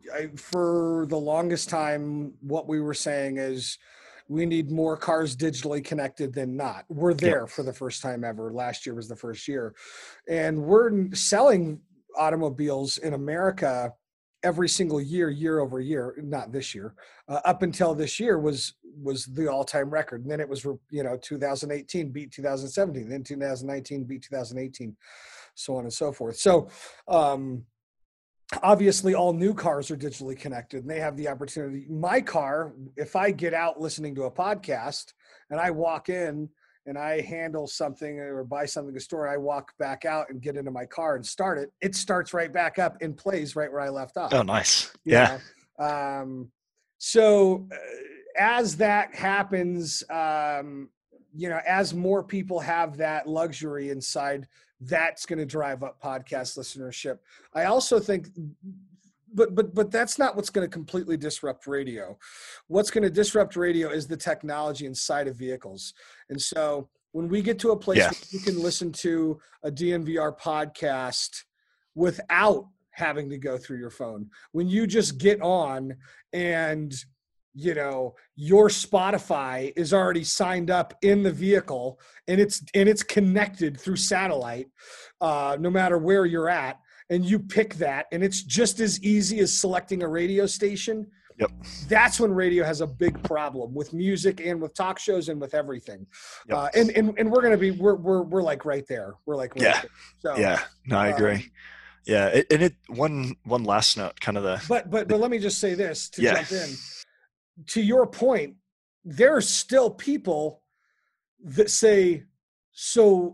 I, for the longest time, what we were saying is we need more cars digitally connected than not. We're there yep. for the first time ever. Last year was the first year. And we're selling automobiles in America every single year, year over year, not this year, uh, up until this year was was the all-time record. And then it was, you know, two thousand eighteen beat two thousand seventeen, then two thousand nineteen beat two thousand eighteen, so on and so forth. So um, obviously all new cars are digitally connected and they have the opportunity. My car, if I get out listening to a podcast and I walk in and I handle something or buy something at the store, I walk back out and get into my car and start it, it starts right back up and plays right where I left off. Oh, nice. Yeah. Um, so uh, as that happens, um, you know, as more people have that luxury inside, that's going to drive up podcast listenership. I also think, but, but, but that's not what's going to completely disrupt radio. What's going to disrupt radio is the technology inside of vehicles. And so when we get to a place yeah. where you can listen to a D N V R podcast without having to go through your phone, when you just get on and, you know, your Spotify is already signed up in the vehicle and it's, and it's connected through satellite, uh, no matter where you're at, and you pick that, and it's just as easy as selecting a radio station. Yep. That's when radio has a big problem with music and with talk shows and with everything. Yep. Uh, and, and, and we're going to be, we're, we're, we're like right there. We're like, right yeah. there. So, yeah, no, I agree. Um, yeah. It, and it, one, one last note, kind of the, but, but, but let me just say this to yeah. jump in. To your point, there are still people that say, so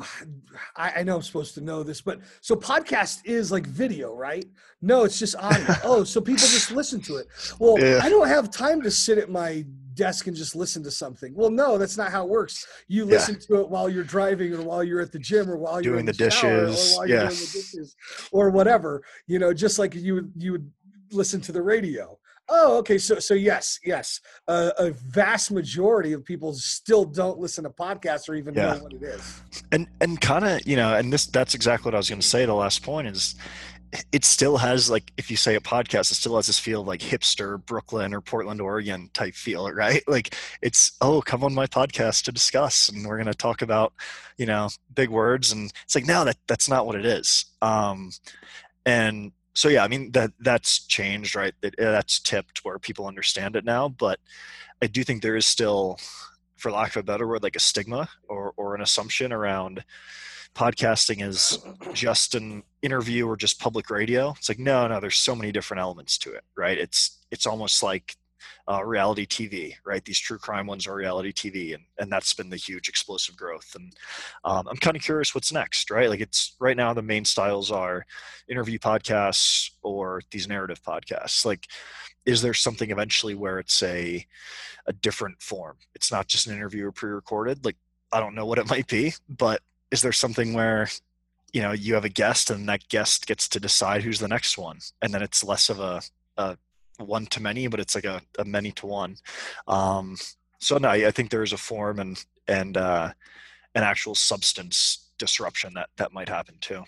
I, I know I'm supposed to know this, but so podcast is like video, right? No, it's just audio. Oh, so people just listen to it. Well, yeah. I don't have time to sit at my desk and just listen to something. Well, no, that's not how it works. You listen yeah. to it while you're driving or while you're at the gym or while you're doing in the, the shower dishes. or while yeah. you're doing the dishes or whatever, you know, just like you would, you would listen to the radio. Oh, okay. So, so yes, yes. Uh, a vast majority of people still don't listen to podcasts or even yeah. know what it is. And, and kind of, you know, and this, that's exactly what I was going to say. The last point is it still has, like, if you say a podcast, it still has this feel of like hipster Brooklyn or Portland, Oregon type feel, right? Like it's, oh, come on my podcast to discuss. And we're going to talk about, you know, big words. And it's like, no, that that's not what it is. Um, and, So yeah, I mean that that's changed, right? That that's tipped where people understand it now. But I do think there is still, for lack of a better word, like a stigma or or an assumption around podcasting is just an interview or just public radio. It's like no, no. There's so many different elements to it, right? It's it's almost like uh, reality T V, right? These true crime ones are reality T V, and and that's been the huge explosive growth. And um, I'm kind of curious what's next, right? Like it's right now the main styles are interview podcasts or these narrative podcasts. Like, is there something eventually where it's a a different form? It's not just an interview or pre-recorded. Like I don't know what it might be, but is there something where you know you have a guest and that guest gets to decide who's the next one, and then it's less of a, a one to many, but it's like a, a many to one. Um, so no, I think there is a form and, and, uh, an actual substance disruption that, that might happen too.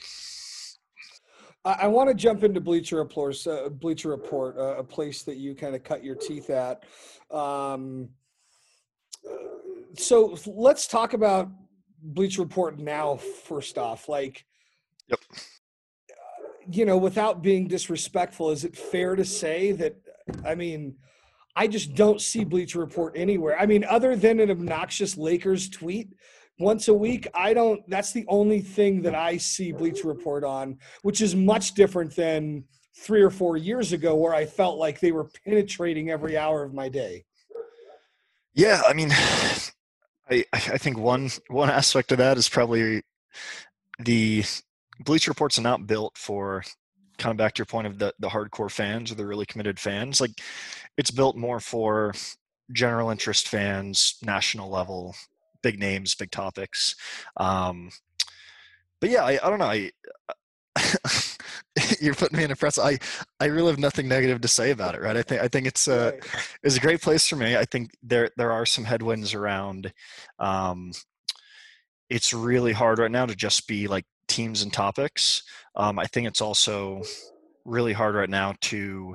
I, I want to jump into Bleacher Report, uh, Bleacher Report, uh, a place that you kind of cut your teeth at. Um, so let's talk about Bleacher Report now, first off, like, yep. you know, without being disrespectful, is it fair to say that, I mean, I just don't see Bleacher Report anywhere. I mean, other than an obnoxious Lakers tweet once a week, I don't, that's the only thing that I see Bleacher Report on, which is much different than three or four years ago where I felt like they were penetrating every hour of my day. Yeah. I mean, I, I think one, one aspect of that is probably the Bleacher Reports are not built for, kind of back to your point of the, the hardcore fans or the really committed fans. Like it's built more for general interest fans, national level, big names, big topics. Um, but yeah, I, I don't know. I, you're putting me in a press. I, I really have nothing negative to say about it. Right. I think, I think it's a, it's a great place for me. I think there, there are some headwinds around. Um, it's really hard right now to just be like teams and topics. Um, I think it's also really hard right now to,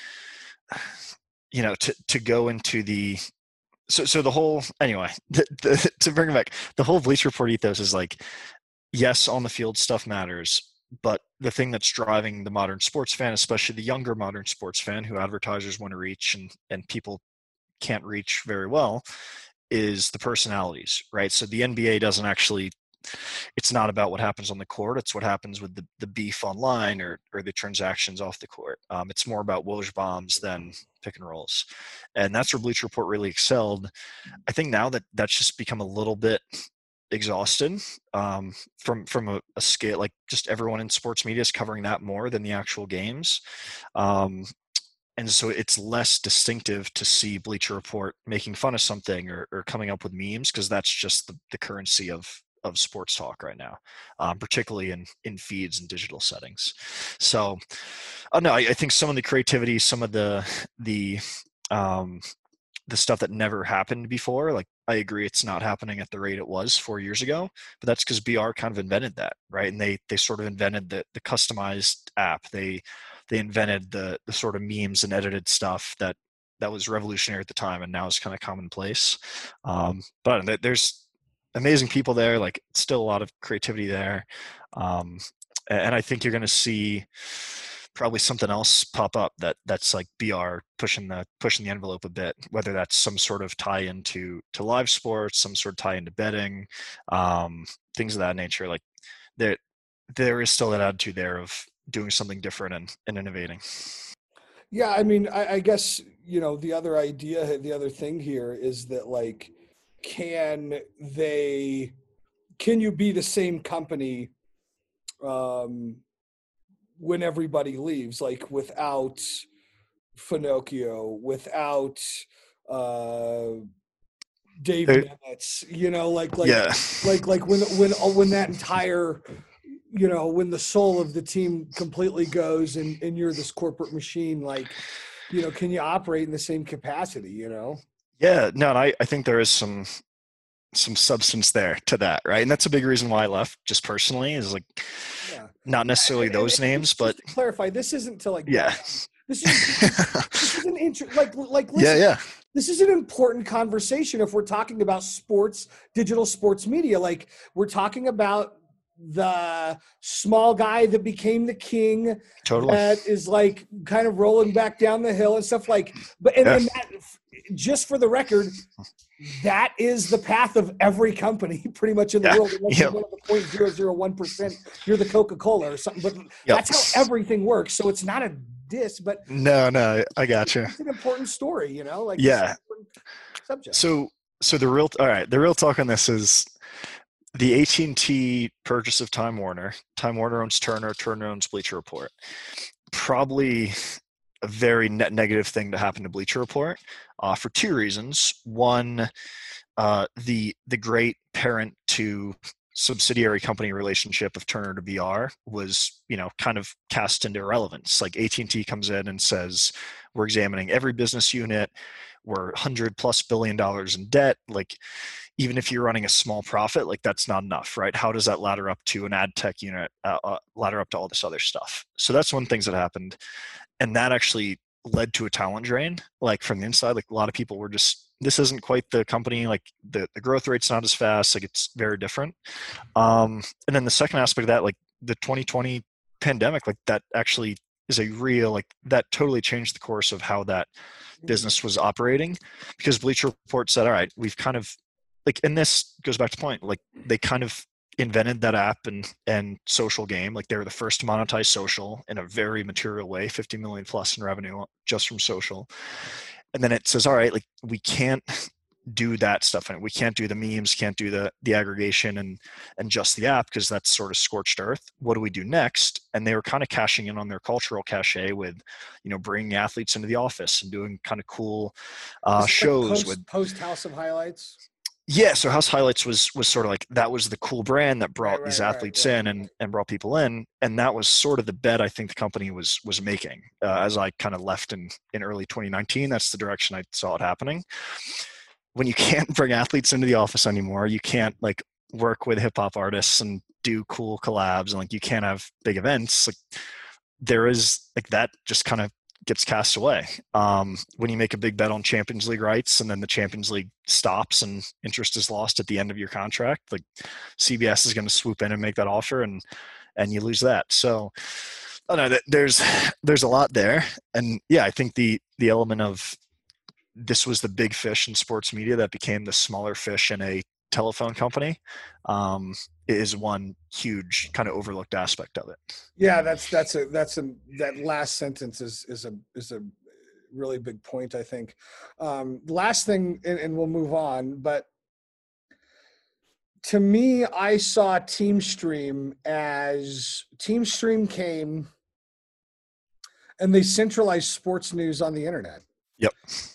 you know, to, to go into the, so, so the whole, anyway, the, the, to bring it back, the whole Bleacher Report ethos is like, yes, on the field stuff matters, but the thing that's driving the modern sports fan, especially the younger modern sports fan who advertisers want to reach and, and people can't reach very well, is the personalities, right? So the N B A doesn't actually, it's not about what happens on the court. It's what happens with the, the beef online or, or the transactions off the court. Um, it's more about Woj bombs than pick and rolls. And that's where Bleacher Report really excelled. I think now that that's just become a little bit exhausted um, from from a, a scale, like just everyone in sports media is covering that more than the actual games. Um, and so it's less distinctive to see Bleacher Report making fun of something or, or coming up with memes, because that's just the, the currency of of sports talk right now, um, particularly in, in feeds and digital settings. So, oh no, I, I think some of the creativity, some of the, the, um, the stuff that never happened before, like I agree it's not happening at the rate it was four years ago, but that's because B R kind of invented that, right? And they, they sort of invented the, the customized app. They, they invented the, the sort of memes and edited stuff that, that was revolutionary at the time and now is kind of commonplace. Um, but there's, amazing people there, like still a lot of creativity there. Um, and I think you're going to see probably something else pop up that that's like B R pushing the, pushing the envelope a bit, whether that's some sort of tie into to live sports, some sort of tie into betting, um, things of that nature. Like there, there is still that attitude there of doing something different and, and innovating. Yeah. I mean, I, I guess, you know, the other idea, the other thing here is that like, can they, can you be the same company um, when everybody leaves, like without Finocchio, without uh, Dave Hey. Nemitz, you know, like, like, Yeah. like, like when, when, when that entire, you know, when the soul of the team completely goes and, and you're this corporate machine, like, you know, can you operate in the same capacity, you know? Yeah, no, and I, I think there is some some substance there to that, right? And that's a big reason why I left, just personally, is like Yeah. not necessarily And- those and names, just but to clarify, this isn't to like, yeah, this is, this is an intro, like, like, listen, yeah, yeah, this is an important conversation if we're talking about sports, digital sports media. Like we're talking about the small guy that became the king, totally. that is like kind of rolling back down the hill and stuff like, but and, Yeah. and that, just for the record, that is the path of every company pretty much in the Yeah. world. Unless Yep. you're one of the zero point zero zero one percent, you're the Coca-Cola or something, but Yep. that's how everything works. So it's not a diss, but No, no, I got you. it's an important story, you know, like Yeah. it's an important subject. So, so the real, all right, the real talk on this is the A T and T purchase of Time Warner. Time Warner owns Turner. Turner owns Bleacher Report. Probably a very net negative thing to happen to Bleacher Report uh, for two reasons. One, uh, the the great parent to subsidiary company relationship of Turner to B R was, you know, kind of cast into irrelevance. Like A T and T comes in and says, we're examining every business unit. We're one hundred plus billion dollars in debt. Like, even if you're running a small profit, like that's not enough, right? How does that ladder up to an ad tech unit, uh, uh, ladder up to all this other stuff? So that's one thing that happened. And that actually led to a talent drain, like from the inside. Like a lot of people were just, this isn't quite the company, like the, the growth rate's not as fast, like it's very different. Um, and then the second aspect of that, like the twenty twenty pandemic, like that actually is a real, like that totally changed the course of how that business was operating, because Bleacher Report said, all right, we've kind of, like, and this goes back to the point, like they kind of invented that app and and social game. Like they were the first to monetize social in a very material way, fifty million plus in revenue just from social. And then it says, all right, like we can't do that stuff, and we can't do the memes, can't do the the aggregation and and just the app, because that's sort of scorched earth. What do we do next? And they were kind of cashing in on their cultural cachet with, you know, bringing athletes into the office and doing kind of cool uh, Is this like shows post, with post House of Highlights. Yeah, so House Highlights was was sort of like, that was the cool brand that brought Right, these right, right, athletes right. in and and brought people in, and that was sort of the bet I think the company was was making. Uh, as I kind of left in in early twenty nineteen, that's the direction I saw it happening. When you can't bring athletes into the office anymore, you can't like work with hip hop artists and do cool collabs, and like you can't have big events. Like there is like that just kind of gets cast away. Um, when you make a big bet on Champions League rights and then the Champions League stops and interest is lost at the end of your contract, like C B S is going to swoop in and make that offer, and and you lose that. So I don't know, there's there's a lot there. And yeah, I think the the element of this was the big fish in sports media that became the smaller fish in a telephone company um, is one huge kind of overlooked aspect of it. Yeah, that's that's a that's a that last sentence is is a is a really big point, I think. Um, last thing, and, and we'll move on, but to me, I saw TeamStream as TeamStream came and they centralized sports news on the internet. Yep.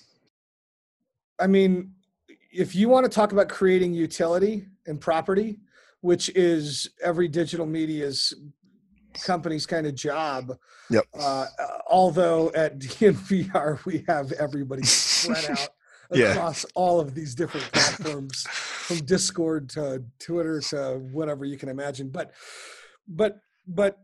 I mean, if you want to talk about creating utility and property, which is every digital media's company's kind of job. Yep. Uh, although at D N V R, we have everybody spread out yeah. across all of these different platforms, from Discord to Twitter to whatever you can imagine. But, but, but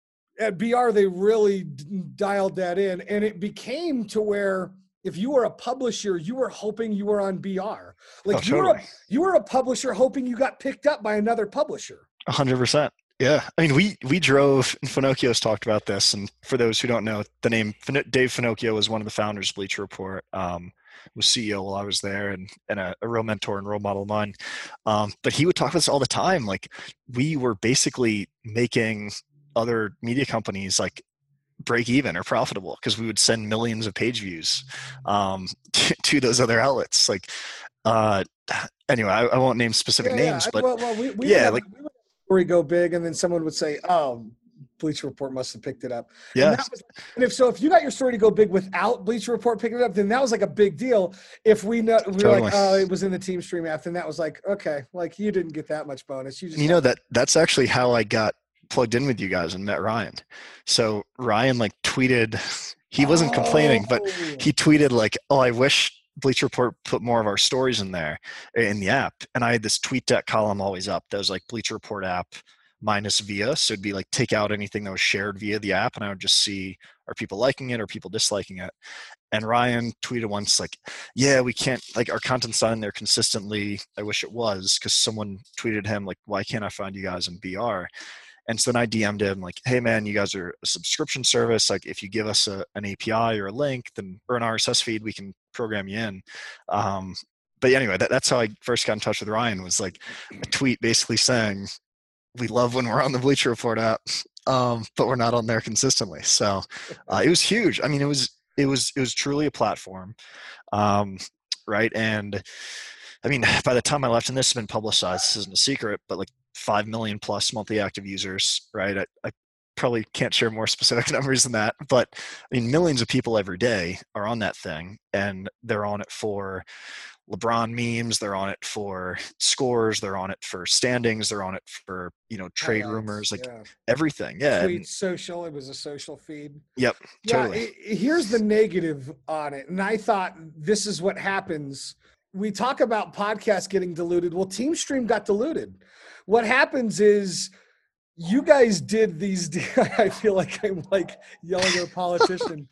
at B R, they really dialed that in, and it became to where if you were a publisher, you were hoping you were on B R. Like oh, you, totally. were a, you were a publisher hoping you got picked up by another publisher. A hundred percent. Yeah. I mean, we, we drove, and Finocchio's talked about this. And for those who don't know, the name Dave Finocchio was one of the founders of Bleacher Report, um, was C E O while I was there, and, and a, a real mentor and role model of mine. Um, but he would talk about this all the time. Like we were basically making other media companies like break even or profitable because we would send millions of page views um, to, to those other outlets. Like, uh, anyway, I, I won't name specific yeah, names, yeah. but well, well, we, we yeah, have, like we would have a story go big, and then someone would say, "Oh, Bleacher Report must have picked it up." yeah. And, that was, and if so, if you got your story to go big without Bleacher Report picking it up, then that was like a big deal. If we know, we were Totally. like, "Oh, it was in the TeamStream app," then that was like, okay, like you didn't get that much bonus. You just, you know that that's actually how I got plugged in with you guys and met Ryan. So Ryan like tweeted, he wasn't oh. complaining, but he tweeted like, "Oh, I wish Bleacher Report put more of our stories in there in the app." And I had this tweet deck column always up that was like Bleacher Report app minus via. So it'd be like take out anything that was shared via the app, and I would just see, are people liking it or people disliking it? And Ryan tweeted once like, "Yeah, we can't, like our content's not in there consistently. I wish it was," because someone tweeted him like, "Why can't I find you guys in B R?" And so then I D M'd him like, "Hey man, you guys are a subscription service. Like if you give us a, an A P I or a link, then or an R S S feed, we can program you in." Um, but anyway, that, that's how I first got in touch with Ryan, was like a tweet basically saying, "We love when we're on the Bleacher Report app, um, but we're not on there consistently." So uh, it was huge. I mean, it was it was it was truly a platform, um, right? And I mean, by the time I left, and this has been publicized, this isn't a secret, but like five million plus monthly active users, right? I, I probably can't share more specific numbers than that, but I mean, millions of people every day are on that thing, and they're on it for LeBron memes, they're on it for scores, they're on it for standings, they're on it for, you know, trade Highlights, rumors, like yeah. everything. Yeah. Tweet, And, social, it was a social feed. yep. Yeah, Totally. it, it- here's the negative on it. And I thought this is what happens. We talk about podcasts getting diluted. Well, TeamStream got diluted. What happens is you guys did these. I feel like I'm like yelling at a politician.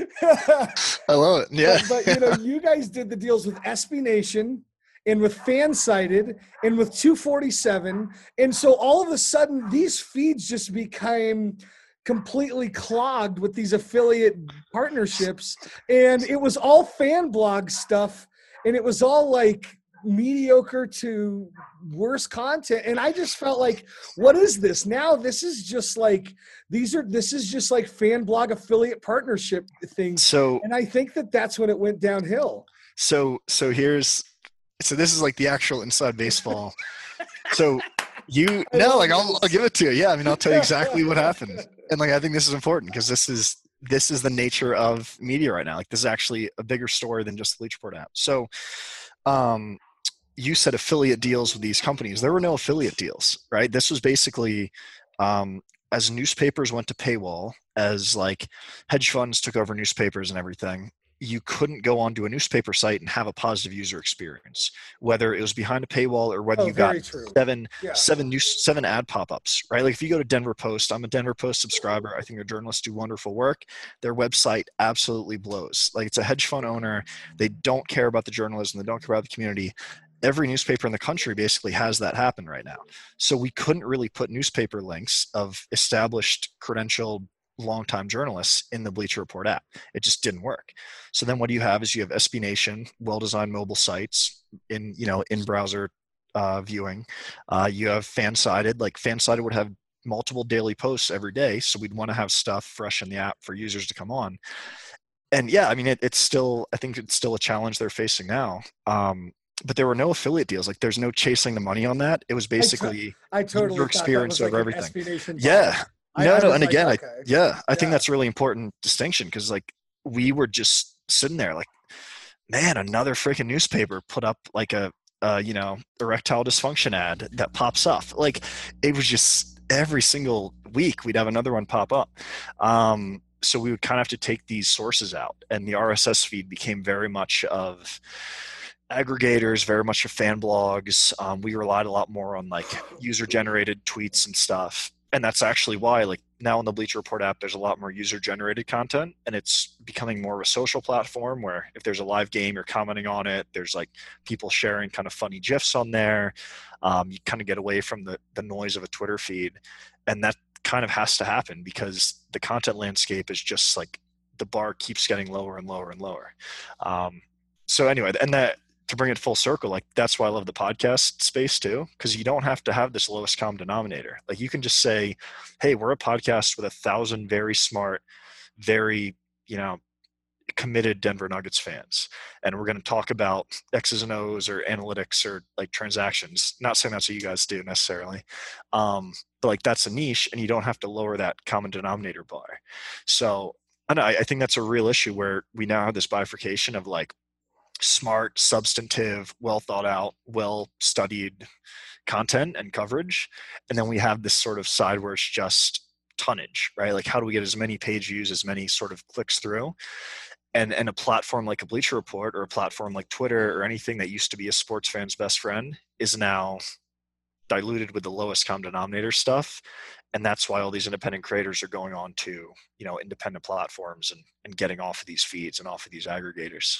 I love it. Yeah. But, but you know, you guys did the deals with S B Nation and with Fansided and with two forty-seven. And so all of a sudden these feeds just became completely clogged with these affiliate partnerships. And it was all fan blog stuff. And it was all like mediocre to worse content. And I just felt like, what is this? Now this is just like, these are, this is just like fan blog affiliate partnership things. So, And I think that that's when it went downhill. so, so here's, so this is like the actual inside baseball. So you, no, like I'll, I'll give it to you. Yeah. I mean, I'll tell you exactly what happened. And like, I think this is important because this is, this is the nature of media right now. Like this is actually a bigger story than just the Bleacher Report app. So, um, you said affiliate deals with these companies. There were no affiliate deals, right? This was basically, um, as newspapers went to paywall, as like hedge funds took over newspapers and everything, you couldn't go onto a newspaper site and have a positive user experience, whether it was behind a paywall or whether Oh, you got true. seven, yeah. seven new, seven ad pop-ups, right? Like if you go to Denver Post, I'm a Denver Post subscriber. I think their journalists do wonderful work. Their website absolutely blows. Like it's a hedge fund owner. They don't care about the journalism. They don't care about the community. Every newspaper in the country basically has that happen right now. So we couldn't really put newspaper links of established credentialed longtime journalists in the Bleacher Report app. It just didn't work. So then what do you have is you have S B Nation, well-designed mobile sites in, you know, in browser uh, viewing. Uh, you have Fansided, like Fansided would have multiple daily posts every day. So we'd want to have stuff fresh in the app for users to come on. And yeah, I mean, it, it's still, I think it's still a challenge they're facing now. Um, but there were no affiliate deals. Like there's no chasing the money on that. It was basically I, t- I totally your experience like over everything. S B Nation yeah. I, no, I no. And like, again, okay. I, yeah, I yeah. think that's a really important distinction because like we were just sitting there like, man, another freaking newspaper put up like a, uh, you know, erectile dysfunction ad that pops up. Like it was just every single week we'd have another one pop up. Um, so we would kind of have to take these sources out, and the R S S feed became very much of aggregators, very much of fan blogs. Um, we relied a lot more on like user generated tweets and stuff. And that's actually why, like now in the Bleacher Report app, there's a lot more user-generated content, and it's becoming more of a social platform where if there's a live game, you're commenting on it. There's like people sharing kind of funny GIFs on there. Um, you kind of get away from the the noise of a Twitter feed, and that kind of has to happen because the content landscape is just like the bar keeps getting lower and lower and lower. Um, so anyway, and that. To bring it full circle, like that's why I love the podcast space too, because you don't have to have this lowest common denominator. Like you can just say, hey, we're a podcast with a thousand very smart, very, you know, committed Denver Nuggets fans. And we're going to talk about X's and O's or analytics or like transactions. Not saying that's what you guys do necessarily. Um, but like that's a niche and you don't have to lower that common denominator bar. So I, know, I think that's a real issue where we now have this bifurcation of like, smart, substantive, well thought out, well studied content and coverage. And then we have this sort of side where it's just tonnage, right? Like how do we get as many page views, as many sort of clicks through? And and a platform like a Bleacher Report or a platform like Twitter or anything that used to be a sports fan's best friend is now diluted with the lowest common denominator stuff. And that's why all these independent creators are going on to, you know, independent platforms and, and getting off of these feeds and off of these aggregators.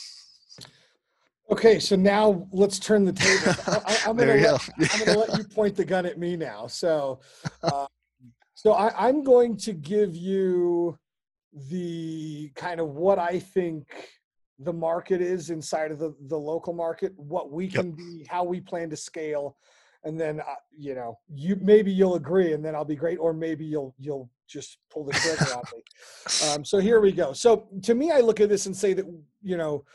Okay, so now let's turn the table. I, I'm going to let you point the gun at me now. So, uh, so I, I'm going to give you the kind of what I think the market is inside of the, the local market, what we can yep. be, how we plan to scale, and then uh, you know, you maybe you'll agree, and then I'll be great, or maybe you'll you'll just pull the trigger on me. Um, so here we go. So to me, I look at this and say that you know.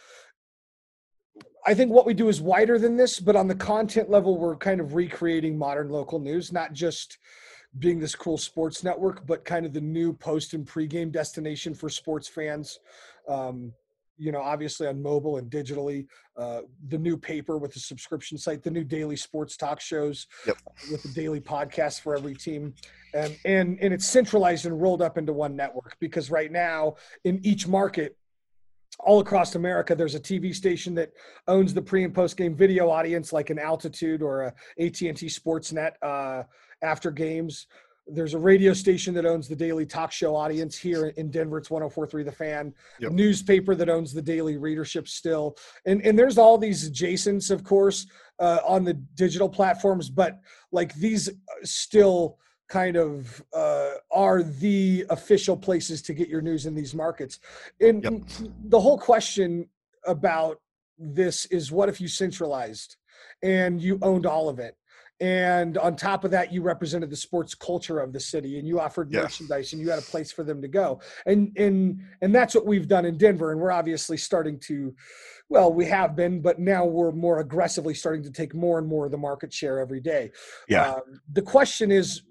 I think what we do is wider than this, but on the content level, we're kind of recreating modern local news, not just being this cool sports network, but kind of the new post and pregame destination for sports fans. Um, you know, obviously on mobile and digitally, uh, the new paper with the subscription site, the new daily sports talk shows yep. with the daily podcast for every team. And, and, and it's centralized and rolled up into one network because right now in each market, all across America, there's a T V station that owns the pre and post game video audience, like an Altitude or a A T and T Sportsnet uh, after games. There's a radio station that owns the daily talk show audience here in Denver. It's one oh four point three The Fan. Yep. Newspaper that owns the daily readership still. And, and there's all these adjacents, of course, uh, on the digital platforms, but like these still kind of uh, are the official places to get your news in these markets. And yep. the whole question about this is, what if you centralized and you owned all of it? And on top of that, you represented the sports culture of the city and you offered yeah. merchandise and you had a place for them to go. And, and, and that's what we've done in Denver. And we're obviously starting to, well, we have been, but now we're more aggressively starting to take more and more of the market share every day. Yeah. Um, the question is,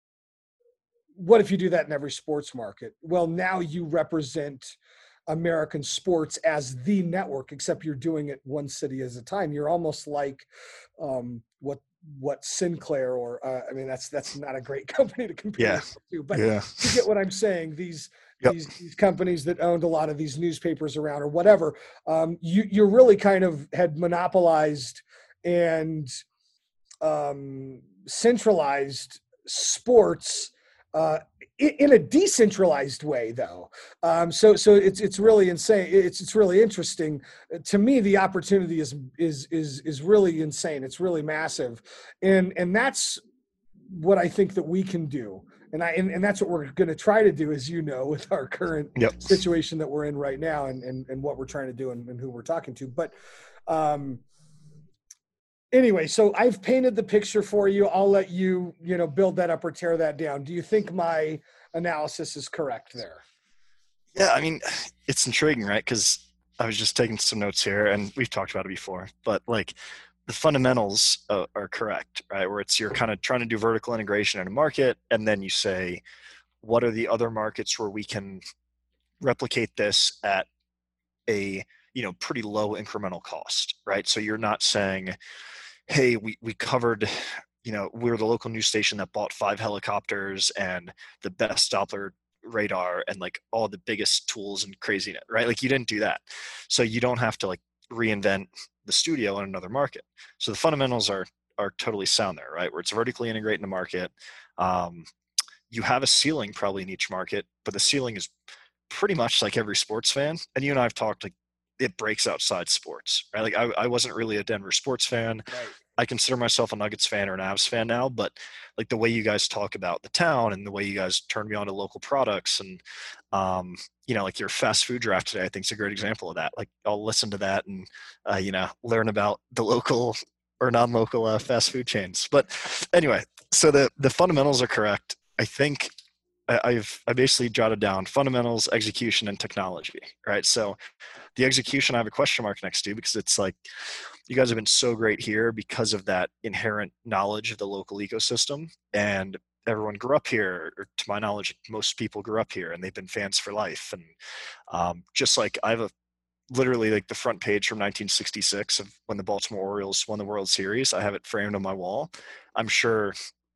what if you do that in every sports market? Well, now you represent American sports as the network, except you're doing it one city at a time. You're almost like um, what what Sinclair or uh, I mean that's that's not a great company to compare Yeah. to, but Yeah. you get what I'm saying. These Yep. these, these companies that owned a lot of these newspapers around or whatever, um, you you really kind of had monopolized and um, centralized sports uh, in, in a decentralized way, though. Um, so so it's it's really insane. It's it's really interesting to me. The opportunity is is is is really insane. It's really massive, and and that's what I think that we can do. And I and, and that's what we're going to try to do, as you know, with our current Yep. situation that we're in right now, and and, and what we're trying to do, and, and who we're talking to. But um, anyway, so I've painted the picture for you. I'll let you, you know, build that up or tear that down. Do you think my analysis is correct there? Yeah, I mean, it's intriguing, right? Because I was just taking some notes here, and we've talked about it before, but like the fundamentals uh, are correct, right? Where it's you're kind of trying to do vertical integration in a market, and then you say, what are the other markets where we can replicate this at a, you know, pretty low incremental cost, right? So you're not saying, hey, we, we covered, you know, we're the local news station that bought five helicopters and the best Doppler radar and like all the biggest tools and craziness, right? Like you didn't do that. So you don't have to like reinvent the studio in another market. So the fundamentals are are totally sound there, right? Where it's vertically integrating the market. Um, you have a ceiling probably in each market, but the ceiling is pretty much like every sports fan. And you and I have talked, like it breaks outside sports, right? Like I, I wasn't really a Denver sports fan. Right. I consider myself a Nuggets fan or an Avs fan now, but like the way you guys talk about the town and the way you guys turn me on to local products and, um, you know, like your fast food draft today, I think is a great example of that. Like I'll listen to that and, uh, you know, learn about the local or non-local uh, fast food chains. But anyway, so the, the fundamentals are correct. I think I, I've, I basically jotted down fundamentals, execution, and technology, right? So the execution, I have a question mark next to because it's like, you guys have been so great here because of that inherent knowledge of the local ecosystem, and everyone grew up here, or to my knowledge, most people grew up here and they've been fans for life. And um, just like I have a literally like the front page from nineteen sixty-six of when the Baltimore Orioles won the World Series. I have it framed on my wall. I'm sure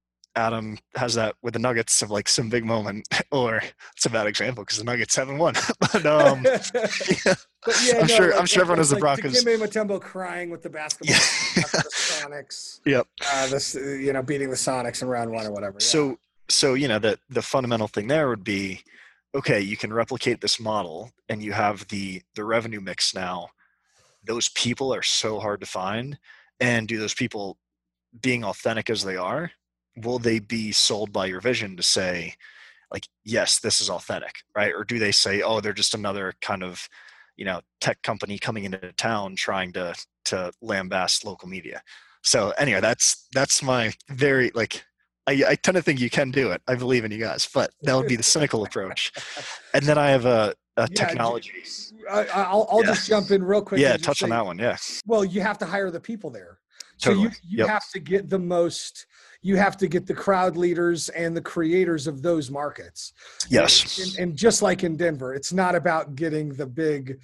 Adam has that with the Nuggets of like some big moment, or it's a bad example because the Nuggets haven't won. But um, yeah, But yeah, I'm no, sure. like, I'm sure everyone has the like Broncos. Dikembe Mutombo crying with the basketball Yeah. after the Sonics. Yep. Uh, this, you know, beating the Sonics in round one or whatever. Yeah. So, so you know, the the fundamental thing there would be, okay, you can replicate this model, and you have the the revenue mix now. Those people are so hard to find, and do those people, being authentic as they are, will they be sold by your vision to say, like, yes, this is authentic, right? Or do they say, oh, they're just another kind of, you know, tech company coming into town trying to to lambast local media? So anyway, that's that's my very like I, I tend to think you can do it. I believe in you guys, but that would be the cynical approach. And then I have a, a Yeah, technology. I, I'll, I'll Yeah. just jump in real quick. Yeah, and just touch on say, that one. Yeah, Well, you have to hire the people there. So totally. you, you Yep. have to get the most, you have to get the crowd leaders and the creators of those markets. Yes. And, and, and just like in Denver, it's not about getting the big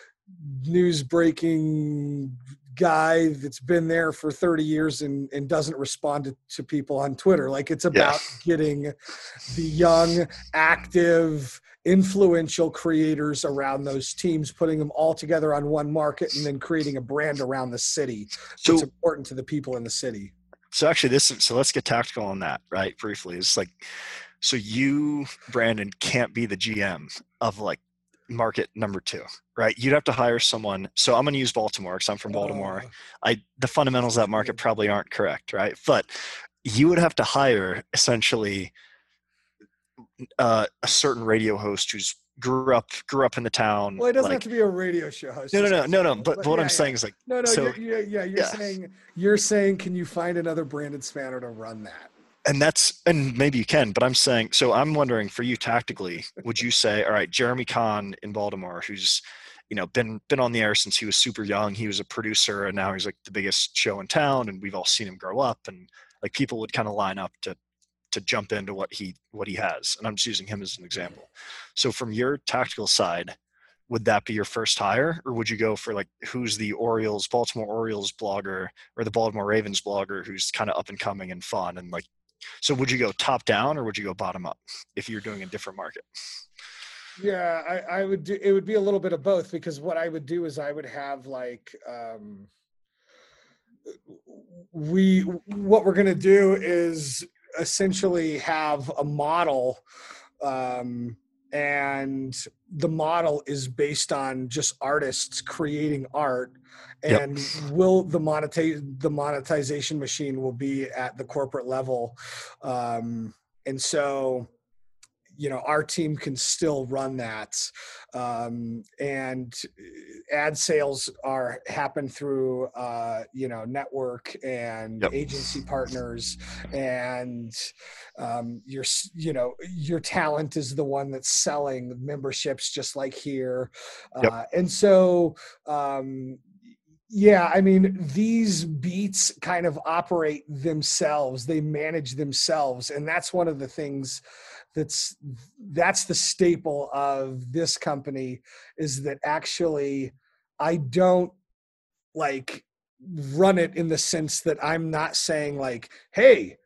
news breaking guy that's been there for thirty years and, and doesn't respond to, to people on Twitter. Like it's about Yeah. getting the young, active, influential creators around those teams, putting them all together on one market, and then creating a brand around the city So- that's important to the people in the city. So actually this, so let's get tactical on that, right? Briefly. It's like, so you, Brandon, can't be the G M of like market number two, right? You'd have to hire someone. So I'm going to use Baltimore because I'm from Baltimore. Uh, I, the fundamentals of that market probably aren't correct, right? But you would have to hire essentially uh, a certain radio host who's grew up, grew up in the town. well, it doesn't like, have to be a radio show host. no, no, Just- no, no, no. But, but what yeah, I'm yeah. saying is like, No, no, so- you're, you're, yeah, you're yeah. saying you're saying, can you find another Brandon Spanner to run that? and that's, and maybe you can, but I'm saying, so I'm wondering for you tactically, would you say, all right, Jeremy Kahn in Baltimore, who's, you know, been, been on the air since he was super young. He was a producer and now he's like the biggest show in town and we've all seen him grow up, and like people would kind of line up to, to jump into what he, what he has. And I'm just using him as an example. So from your tactical side, would that be your first hire, or would you go for like who's the Orioles, Baltimore Orioles blogger or the Baltimore Ravens blogger who's kind of up and coming and fun and like, so would you go top down or would you go bottom up if you're doing a different market? Yeah, I, I would do, it would be a little bit of both, because what I would do is I would have like, um, we, what we're going to do is essentially have a model, um, and the model is based on just artists creating art, and yep. will the monetize the monetization machine will be at the corporate level. Um, and so, you know, our team can still run that. Um, and ad sales are happen through, uh, you know, network and yep. agency partners, and um, your, you know, your talent is the one that's selling memberships, just like here. Yep. Uh, and so, um, yeah, I mean, these beats kind of operate themselves. They manage themselves. And that's one of the things that's, that's the staple of this company, is that actually I don't like run it in the sense that I'm not saying like, hey,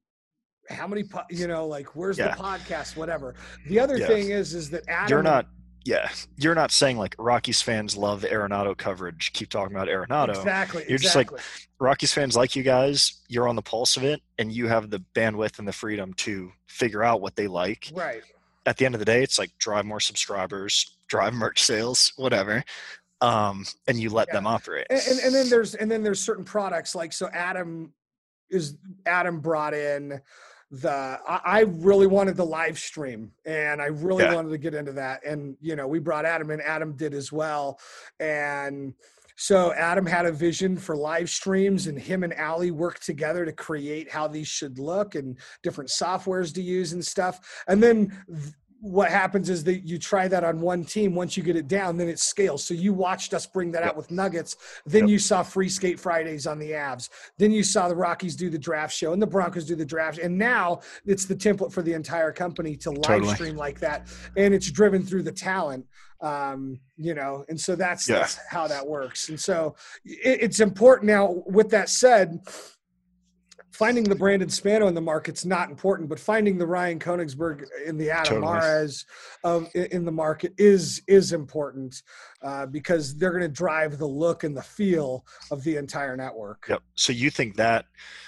how many, po-, you know, like, where's yeah. the podcast, whatever. The other yeah. thing is, is that Adam, you're not, yeah, you're not saying like Rockies fans love Arenado coverage, keep talking about Arenado. Exactly. You're exactly. just like, Rockies fans like you guys, you're on the pulse of it, and you have the bandwidth and the freedom to figure out what they like. Right. At the end of the day, it's like drive more subscribers, drive merch sales, whatever. Um, and you let yeah. them operate. And, and, and then there's, and then there's certain products like, so Adam is, Adam brought in the, I, I really wanted the live stream, and I really yeah. wanted to get into that. And, you know, we brought Adam in, Adam did as well. And so Adam had a vision for live streams, and him and Allie worked together to create how these should look and different softwares to use and stuff. And then th- what happens is that you try that on one team. Once you get it down, then it scales. So you watched us bring that yep. out with Nuggets. Then yep. you saw Free Skate Fridays on the Avs. Then you saw the Rockies do the draft show and the Broncos do the draft. And now it's the template for the entire company to live totally. stream like that. And it's driven through the talent, um, you know, and so that's, yeah. that's how that works. And so it, it's important. Now, with that said, finding the Brandon Spano in the market's not important, but finding the Ryan Koenigsberg in the Adam totally. Mares um, in the market is is important, uh, because they're going to drive the look and the feel of the entire network. Yep. So you think that,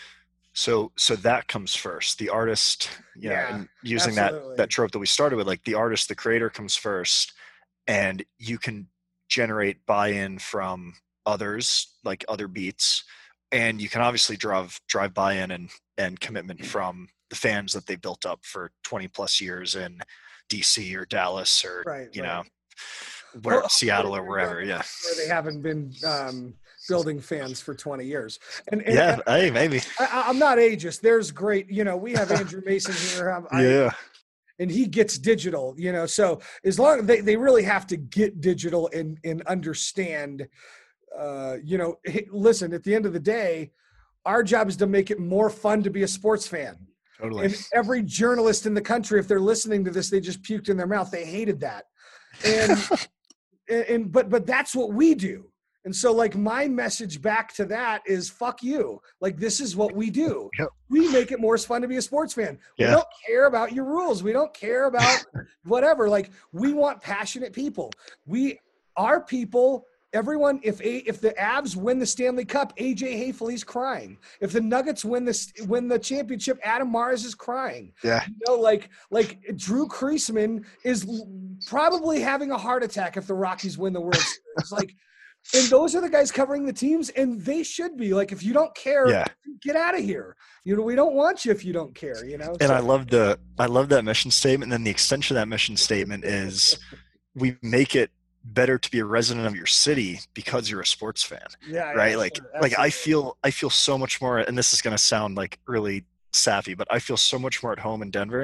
so so that comes first, the artist, you yeah, know, and using absolutely. that that trope that we started with, like the artist, the creator comes first, and you can generate buy-in from others, like other beats. And you can obviously drive drive buy-in and, and commitment from the fans that they built up for twenty plus years in D C or Dallas or, right, you right. know, where well, Seattle or wherever. Yeah. Where they haven't been um, building fans for twenty years. And, and yeah, and, hey, maybe. I, I'm not ageist. There's great, you know, we have Andrew Mason here. Um, I, yeah. And he gets digital, you know, so as long as they, they really have to get digital and, and understand, uh, you know, hey, listen, at the end of the day, our job is to make it more fun to be a sports fan. Totally. And every journalist in the country, if they're listening to this, they just puked in their mouth. They hated that. And, and, and, but, but that's what we do. And so like my message back to that is fuck you. Like, this is what we do. Yep. We make it more fun to be a sports fan. Yeah. We don't care about your rules. We don't care about whatever. Like, we want passionate people. We are people. Everyone, if a, if the Avs win the Stanley Cup, A J Hayfley's crying. If the Nuggets win this win the championship, Adam Mares is crying. Yeah, you know, like like Drew Kreisman is probably having a heart attack if the Rockies win the World Series. Like, and those are the guys covering the teams, and they should be like, if you don't care, yeah. get out of here. You know, we don't want you if you don't care. You know. And so. I love the I love that mission statement. And then the extension of that mission statement is, we make it better to be a resident of your city because you're a sports fan. Yeah. Right. Yeah, like, sure. like I feel, I feel so much more, and this is going to sound like really sappy, but I feel so much more at home in Denver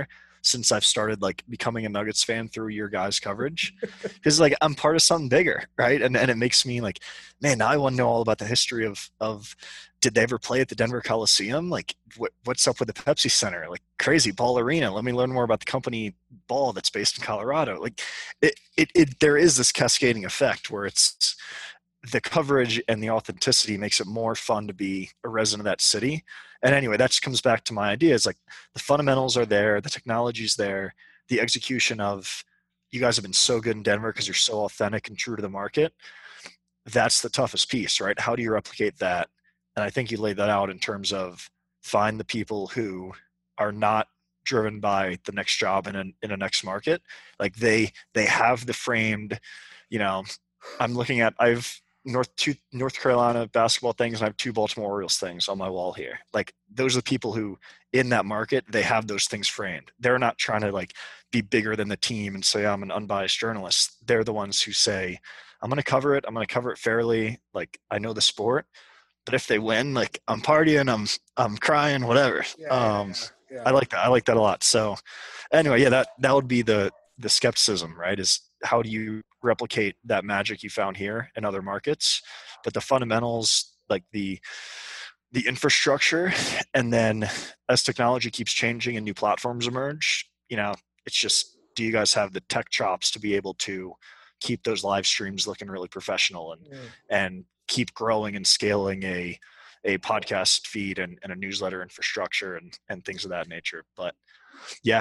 since I've started like becoming a Nuggets fan through your guys' coverage, because like I'm part of something bigger, right? And and it makes me like, man, now I want to know all about the history of of did they ever play at the Denver Coliseum? Like what what's up with the Pepsi Center? Like crazy Ball Arena. Let me learn more about the company Ball that's based in Colorado. Like it it, it there is this cascading effect where it's the coverage and the authenticity makes it more fun to be a resident of that city. And anyway, that just comes back to my idea is like the fundamentals are there, the technology's there, the execution of you guys have been so good in Denver because you're so authentic and true to the market. That's the toughest piece, right? How do you replicate that? And I think you laid that out in terms of find the people who are not driven by the next job in a, in a next market. Like they, they have the framed, you know, I'm looking at, I've, North two North Carolina basketball things, and I have two Baltimore Orioles things on my wall here. Like those are the people who in that market, they have those things framed. They're not trying to like be bigger than the team and say I'm an unbiased journalist. They're the ones who say, I'm going to cover it. I'm going to cover it fairly. Like I know the sport, but if they win, like I'm partying, I'm I'm crying, whatever. Yeah, um, yeah, yeah. I like that. I like that a lot. So anyway, yeah, that that would be the the skepticism, right? Is how do you replicate that magic you found here in other markets? But the fundamentals, like the the infrastructure, and then as technology keeps changing and new platforms emerge, you know, it's just, do you guys have the tech chops to be able to keep those live streams looking really professional and Yeah. and keep growing and scaling a a podcast feed and, and a newsletter infrastructure and and things of that nature. But yeah.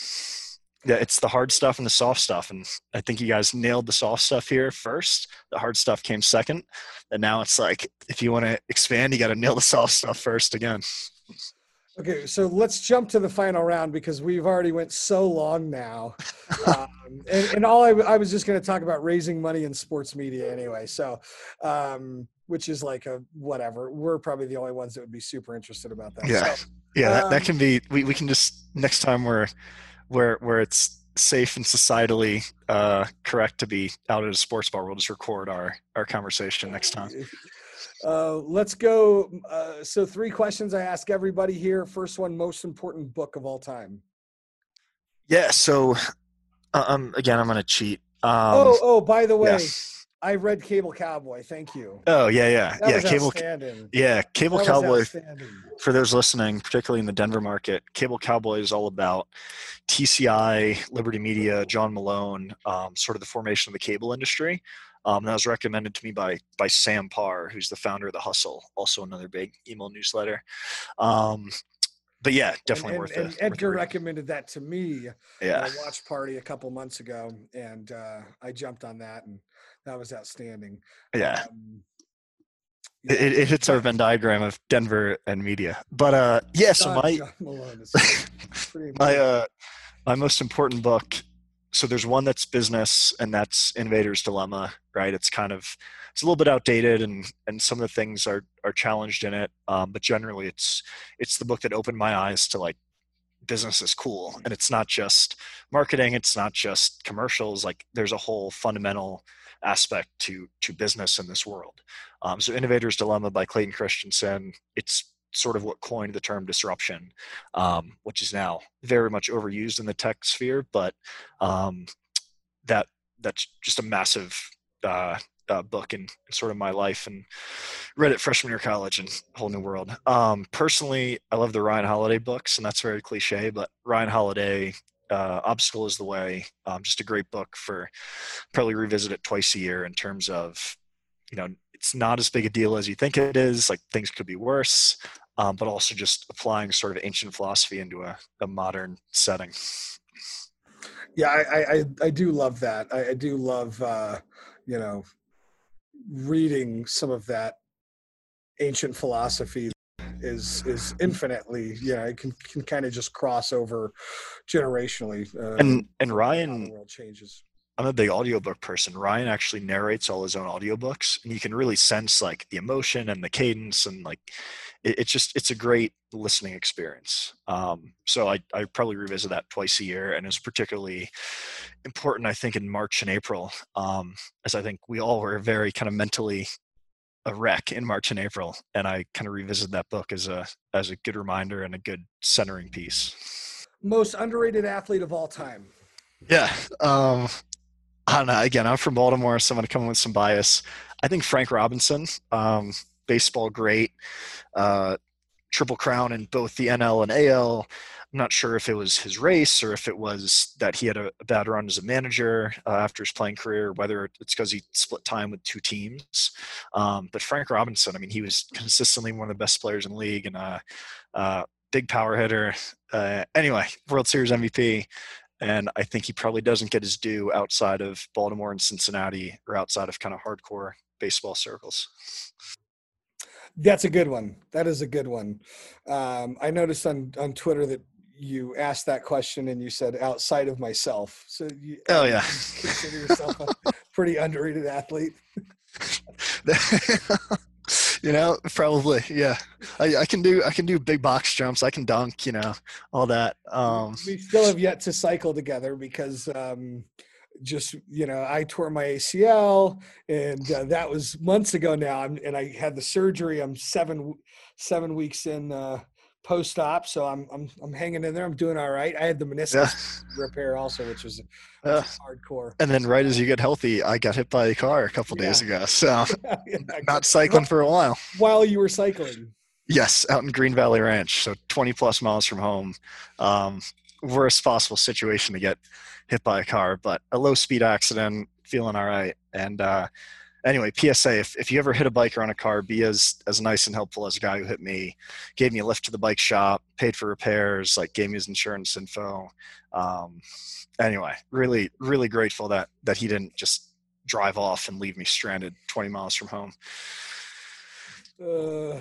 Yeah, it's the hard stuff and the soft stuff. And I think you guys nailed the soft stuff here first. The hard stuff came second. And now it's like, if you want to expand, you got to nail the soft stuff first again. Okay, so let's jump to the final round because we've already went so long now. Um, and, and all I, I was just going to talk about raising money in sports media anyway. So, um, which is like a whatever. We're probably the only ones that would be super interested about that. Yeah. So, yeah, that, um, that can be, we, we can just, next time we're, where where it's safe and societally uh, correct to be out at a sports bar, we'll just record our, our conversation next time. Uh, let's go. Uh, so three questions I ask everybody here. First one, most important book of all time. Yeah. So uh, um, again, I'm going to cheat. Um, oh, oh, by the way, yeah. I read Cable Cowboy. Thank you. Oh yeah. Yeah. That yeah. was Cable. outstanding. Yeah. Cable That was Cowboy. outstanding. For those listening, particularly in the Denver market, Cable Cowboy is all about T C I, Liberty Media, John Malone, um, sort of the formation of the cable industry. Um, that was recommended to me by by Sam Parr, who's the founder of The Hustle, also another big email newsletter. Um, but yeah, definitely and, worth and, it. And Edgar recommended that to me yeah. at a watch party a couple months ago, and uh, I jumped on that, and that was outstanding. Yeah. Um, yeah. It, it hits our Venn diagram of Denver and media. But uh, yeah, so John, my John Malone is pretty my uh, my most important book. So there's one that's business, and that's Innovator's Dilemma, right? It's kind of, it's a little bit outdated, and and some of the things are are challenged in it. Um, but generally, it's it's the book that opened my eyes to like business is cool, and it's not just marketing, it's not just commercials. Like there's a whole fundamental aspect to to business in this world. Um, so Innovator's Dilemma by Clayton Christensen. It's sort of what coined the term disruption, um, which is now very much overused in the tech sphere, but um, that that's just a massive uh, uh, book in, in sort of my life, and read it freshman year of college and whole new world. Um, personally, I love the Ryan Holiday books, and that's very cliche, but Ryan Holiday, uh, Obstacle is the Way, um, just a great book for probably revisit it twice a year in terms of, you know, it's not as big a deal as you think it is. Like things could be worse. Um, but also just applying sort of ancient philosophy into a, a modern setting. Yeah, I, I, I do love that. I, I do love, uh, you know, reading some of that ancient philosophy is is infinitely, you know, it can, can kind of just cross over generationally. Uh, and and how Ryan, the world changes. I'm a big audiobook person. Ryan actually narrates all his own audiobooks, and you can really sense like the emotion and the cadence, and like it, it's just it's a great listening experience. Um, so I I probably revisit that twice a year, and it's particularly important, I think, in March and April, um, as I think we all were very kind of mentally a wreck in March and April, and I kind of revisit that book as a as a good reminder and a good centering piece. Most underrated athlete of all time. Yeah. Um, I don't know. Again, I'm from Baltimore, so I'm going to come in with some bias. I think Frank Robinson, um, baseball great, uh, triple crown in both the N L and A L. I'm not sure if it was his race or if it was that he had a, a bad run as a manager uh, after his playing career, whether it's because he split time with two teams. Um, but Frank Robinson, I mean, he was consistently one of the best players in the league and a uh, uh, big power hitter. Uh, anyway, World Series M V P. And I think he probably doesn't get his due outside of Baltimore and Cincinnati or outside of kind of hardcore baseball circles. That's a good one. That is a good one. Um, I noticed on, on Twitter that you asked that question and you said outside of myself. So you, oh yeah, you consider yourself a pretty underrated athlete. You know, probably, yeah. I, I can do I can do big box jumps. I can dunk. You know, all that. Um, we still have yet to cycle together because um, just you know I tore my A C L and uh, that was months ago now. I'm, and I had the surgery. I'm seven seven weeks in uh, post op, so I'm I'm I'm hanging in there. I'm doing all right. I had the meniscus yeah. repair also, which was, yeah. was hardcore. And then right as you get healthy, I got hit by a car a couple yeah. days ago. So yeah, not cycling for a while. While you were cycling. Yes, out in Green Valley Ranch, so twenty plus miles from home. Um, worst possible situation to get hit by a car, but a low speed accident, feeling all right. And uh, anyway, P S A, if, if you ever hit a biker on a car, be as, as nice and helpful as a guy who hit me, gave me a lift to the bike shop, paid for repairs, like gave me his insurance info. Um, anyway, really, really grateful that, that he didn't just drive off and leave me stranded twenty miles from home. Uh...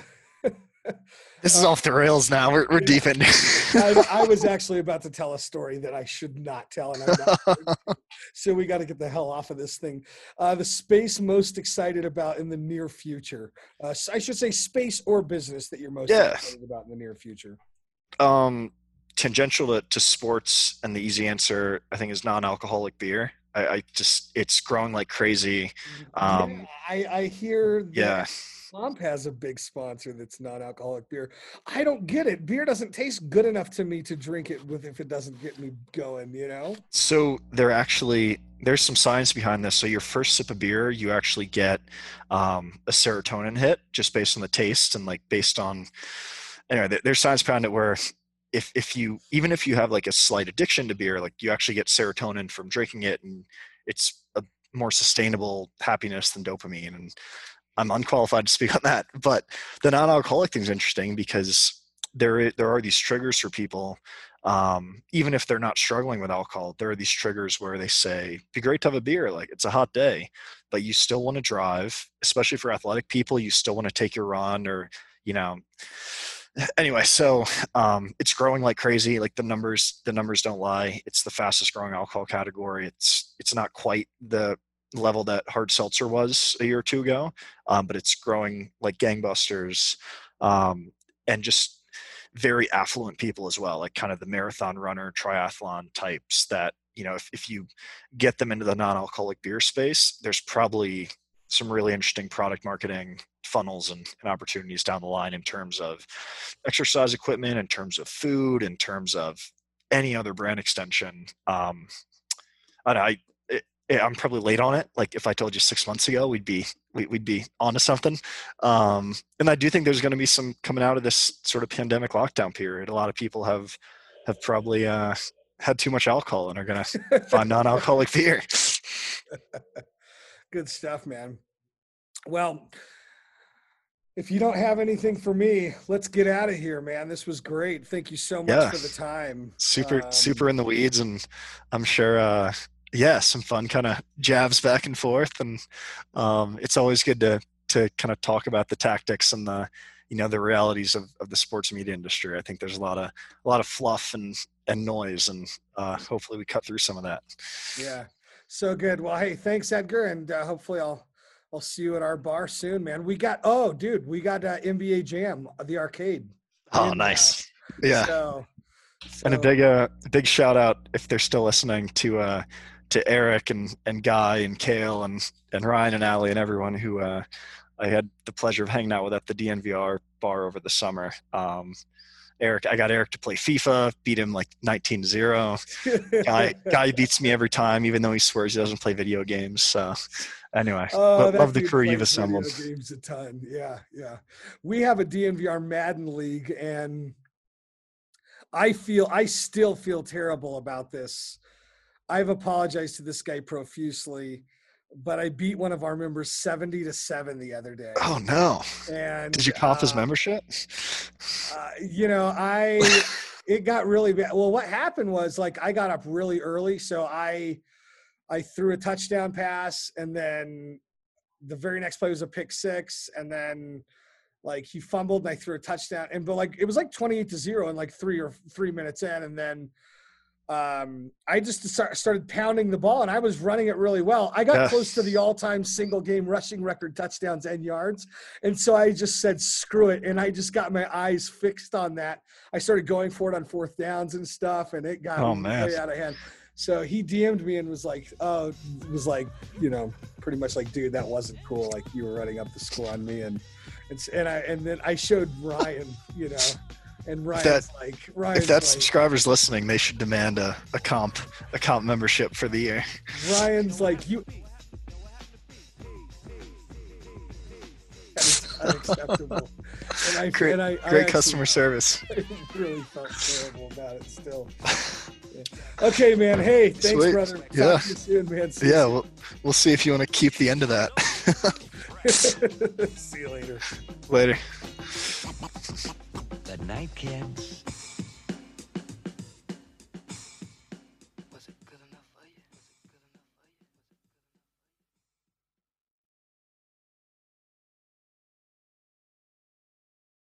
This is uh, off the rails now. We're we're yeah. deep in. I, I was actually about to tell a story that I should not tell, and I'm not. So we got to get the hell off of this thing. Uh, the space most excited about in the near future. Uh, I should say space or business that you're most yeah. excited about in the near future. Um, tangential to, to sports, and the easy answer I think is non-alcoholic beer. I, I just it's growing like crazy. Um, yeah, I, I hear. That- yeah. Slump has a big sponsor that's non-alcoholic beer. I don't get it. Beer doesn't taste good enough to me to drink it with if it doesn't get me going, you know? So there actually, there's some science behind this. So your first sip of beer, you actually get um, a serotonin hit just based on the taste and like based on, anyway, there's science behind it where if, if you, even if you have like a slight addiction to beer, like you actually get serotonin from drinking it and it's a more sustainable happiness than dopamine. And I'm unqualified to speak on that, but the non-alcoholic thing is interesting because there there are these triggers for people, um, even if they're not struggling with alcohol. There are these triggers where they say, "Be great to have a beer, like it's a hot day, but you still want to drive." Especially for athletic people, you still want to take your run, or you know. Anyway, so um, it's growing like crazy. Like the numbers, the numbers don't lie. It's the fastest growing alcohol category. It's it's not quite the level that hard seltzer was a year or two ago, um, but it's growing like gangbusters, um, and just very affluent people as well, like kind of the marathon runner, triathlon types that, you know, if, if you get them into the non-alcoholic beer space, there's probably some really interesting product marketing funnels and, and opportunities down the line in terms of exercise equipment, in terms of food, in terms of any other brand extension. Um, and I, Yeah, I'm probably late on it. Like if I told you six months ago, we'd be we, we'd be onto something. Um, and I do think there's going to be some coming out of this sort of pandemic lockdown period. A lot of people have have probably uh, had too much alcohol and are going to find non-alcoholic beer. Good stuff, man. Well, if you don't have anything for me, let's get out of here, man. This was great. Thank you so much yeah. for the time. Super, um, super in the weeds, and I'm sure. Uh, Yeah, some fun kind of jabs back and forth, and um, it's always good to to kind of talk about the tactics and the you know the realities of, of the sports media industry. I think there's a lot of a lot of fluff and and noise, and uh, hopefully we cut through some of that. Yeah, so good. Well, hey, thanks, Edgar, and uh, hopefully I'll I'll see you at our bar soon, man. We got oh, dude, we got uh, N B A Jam, the arcade. Oh, in, nice. Uh, yeah. So, so. And a big uh big shout out if they're still listening to uh. to Eric and, and Guy and Kale and, and Ryan and Allie and everyone who uh, I had the pleasure of hanging out with at the D N V R bar over the summer. Um, Eric, I got Eric to play FIFA, beat him like nineteen to zero. guy, guy beats me every time, even though he swears he doesn't play video games. So anyway, Oh, lo- that love the dude crew plays you've assembled. video games a ton. Yeah, yeah. We have a D N V R Madden league, and I feel I still feel terrible about this. I've apologized to this guy profusely, but I beat one of our members seventy to seven the other day. Oh no! And Did you comp his uh, membership? uh, you know, I it got really bad. Well, what happened was like I got up really early, so I I threw a touchdown pass, and then the very next play was a pick six, and then like he fumbled and I threw a touchdown, and but like it was like twenty-eight to zero in like three or three minutes in, and then um I just start, started pounding the ball, and I was running it really well. I got Yeah. close to the all-time single game rushing record, touchdowns and yards, and so I just said screw it, and I just got my eyes fixed on that. I started going for it on fourth downs and stuff, and it got Oh, way man. out of hand. So he D M'd me and was like, oh, was like, you know, pretty much like, dude, that wasn't cool. Like you were running up the score on me, and and and I and then I showed Ryan, you know. And Ryan's that- like, Ryan's If that like, subscriber's listening, they should demand a, a comp a comp membership for the year. Ryan's like, you. That is unacceptable. And I, Great, and I, I great actually- customer service. I really felt terrible about it still. Yeah. Okay, man. Hey, thanks, Sweet. brother. Talk Yeah. to you soon, man. See Yeah, you we'll we'll see if you want to keep the end of that. soon. See you later. Later. Good night, kids.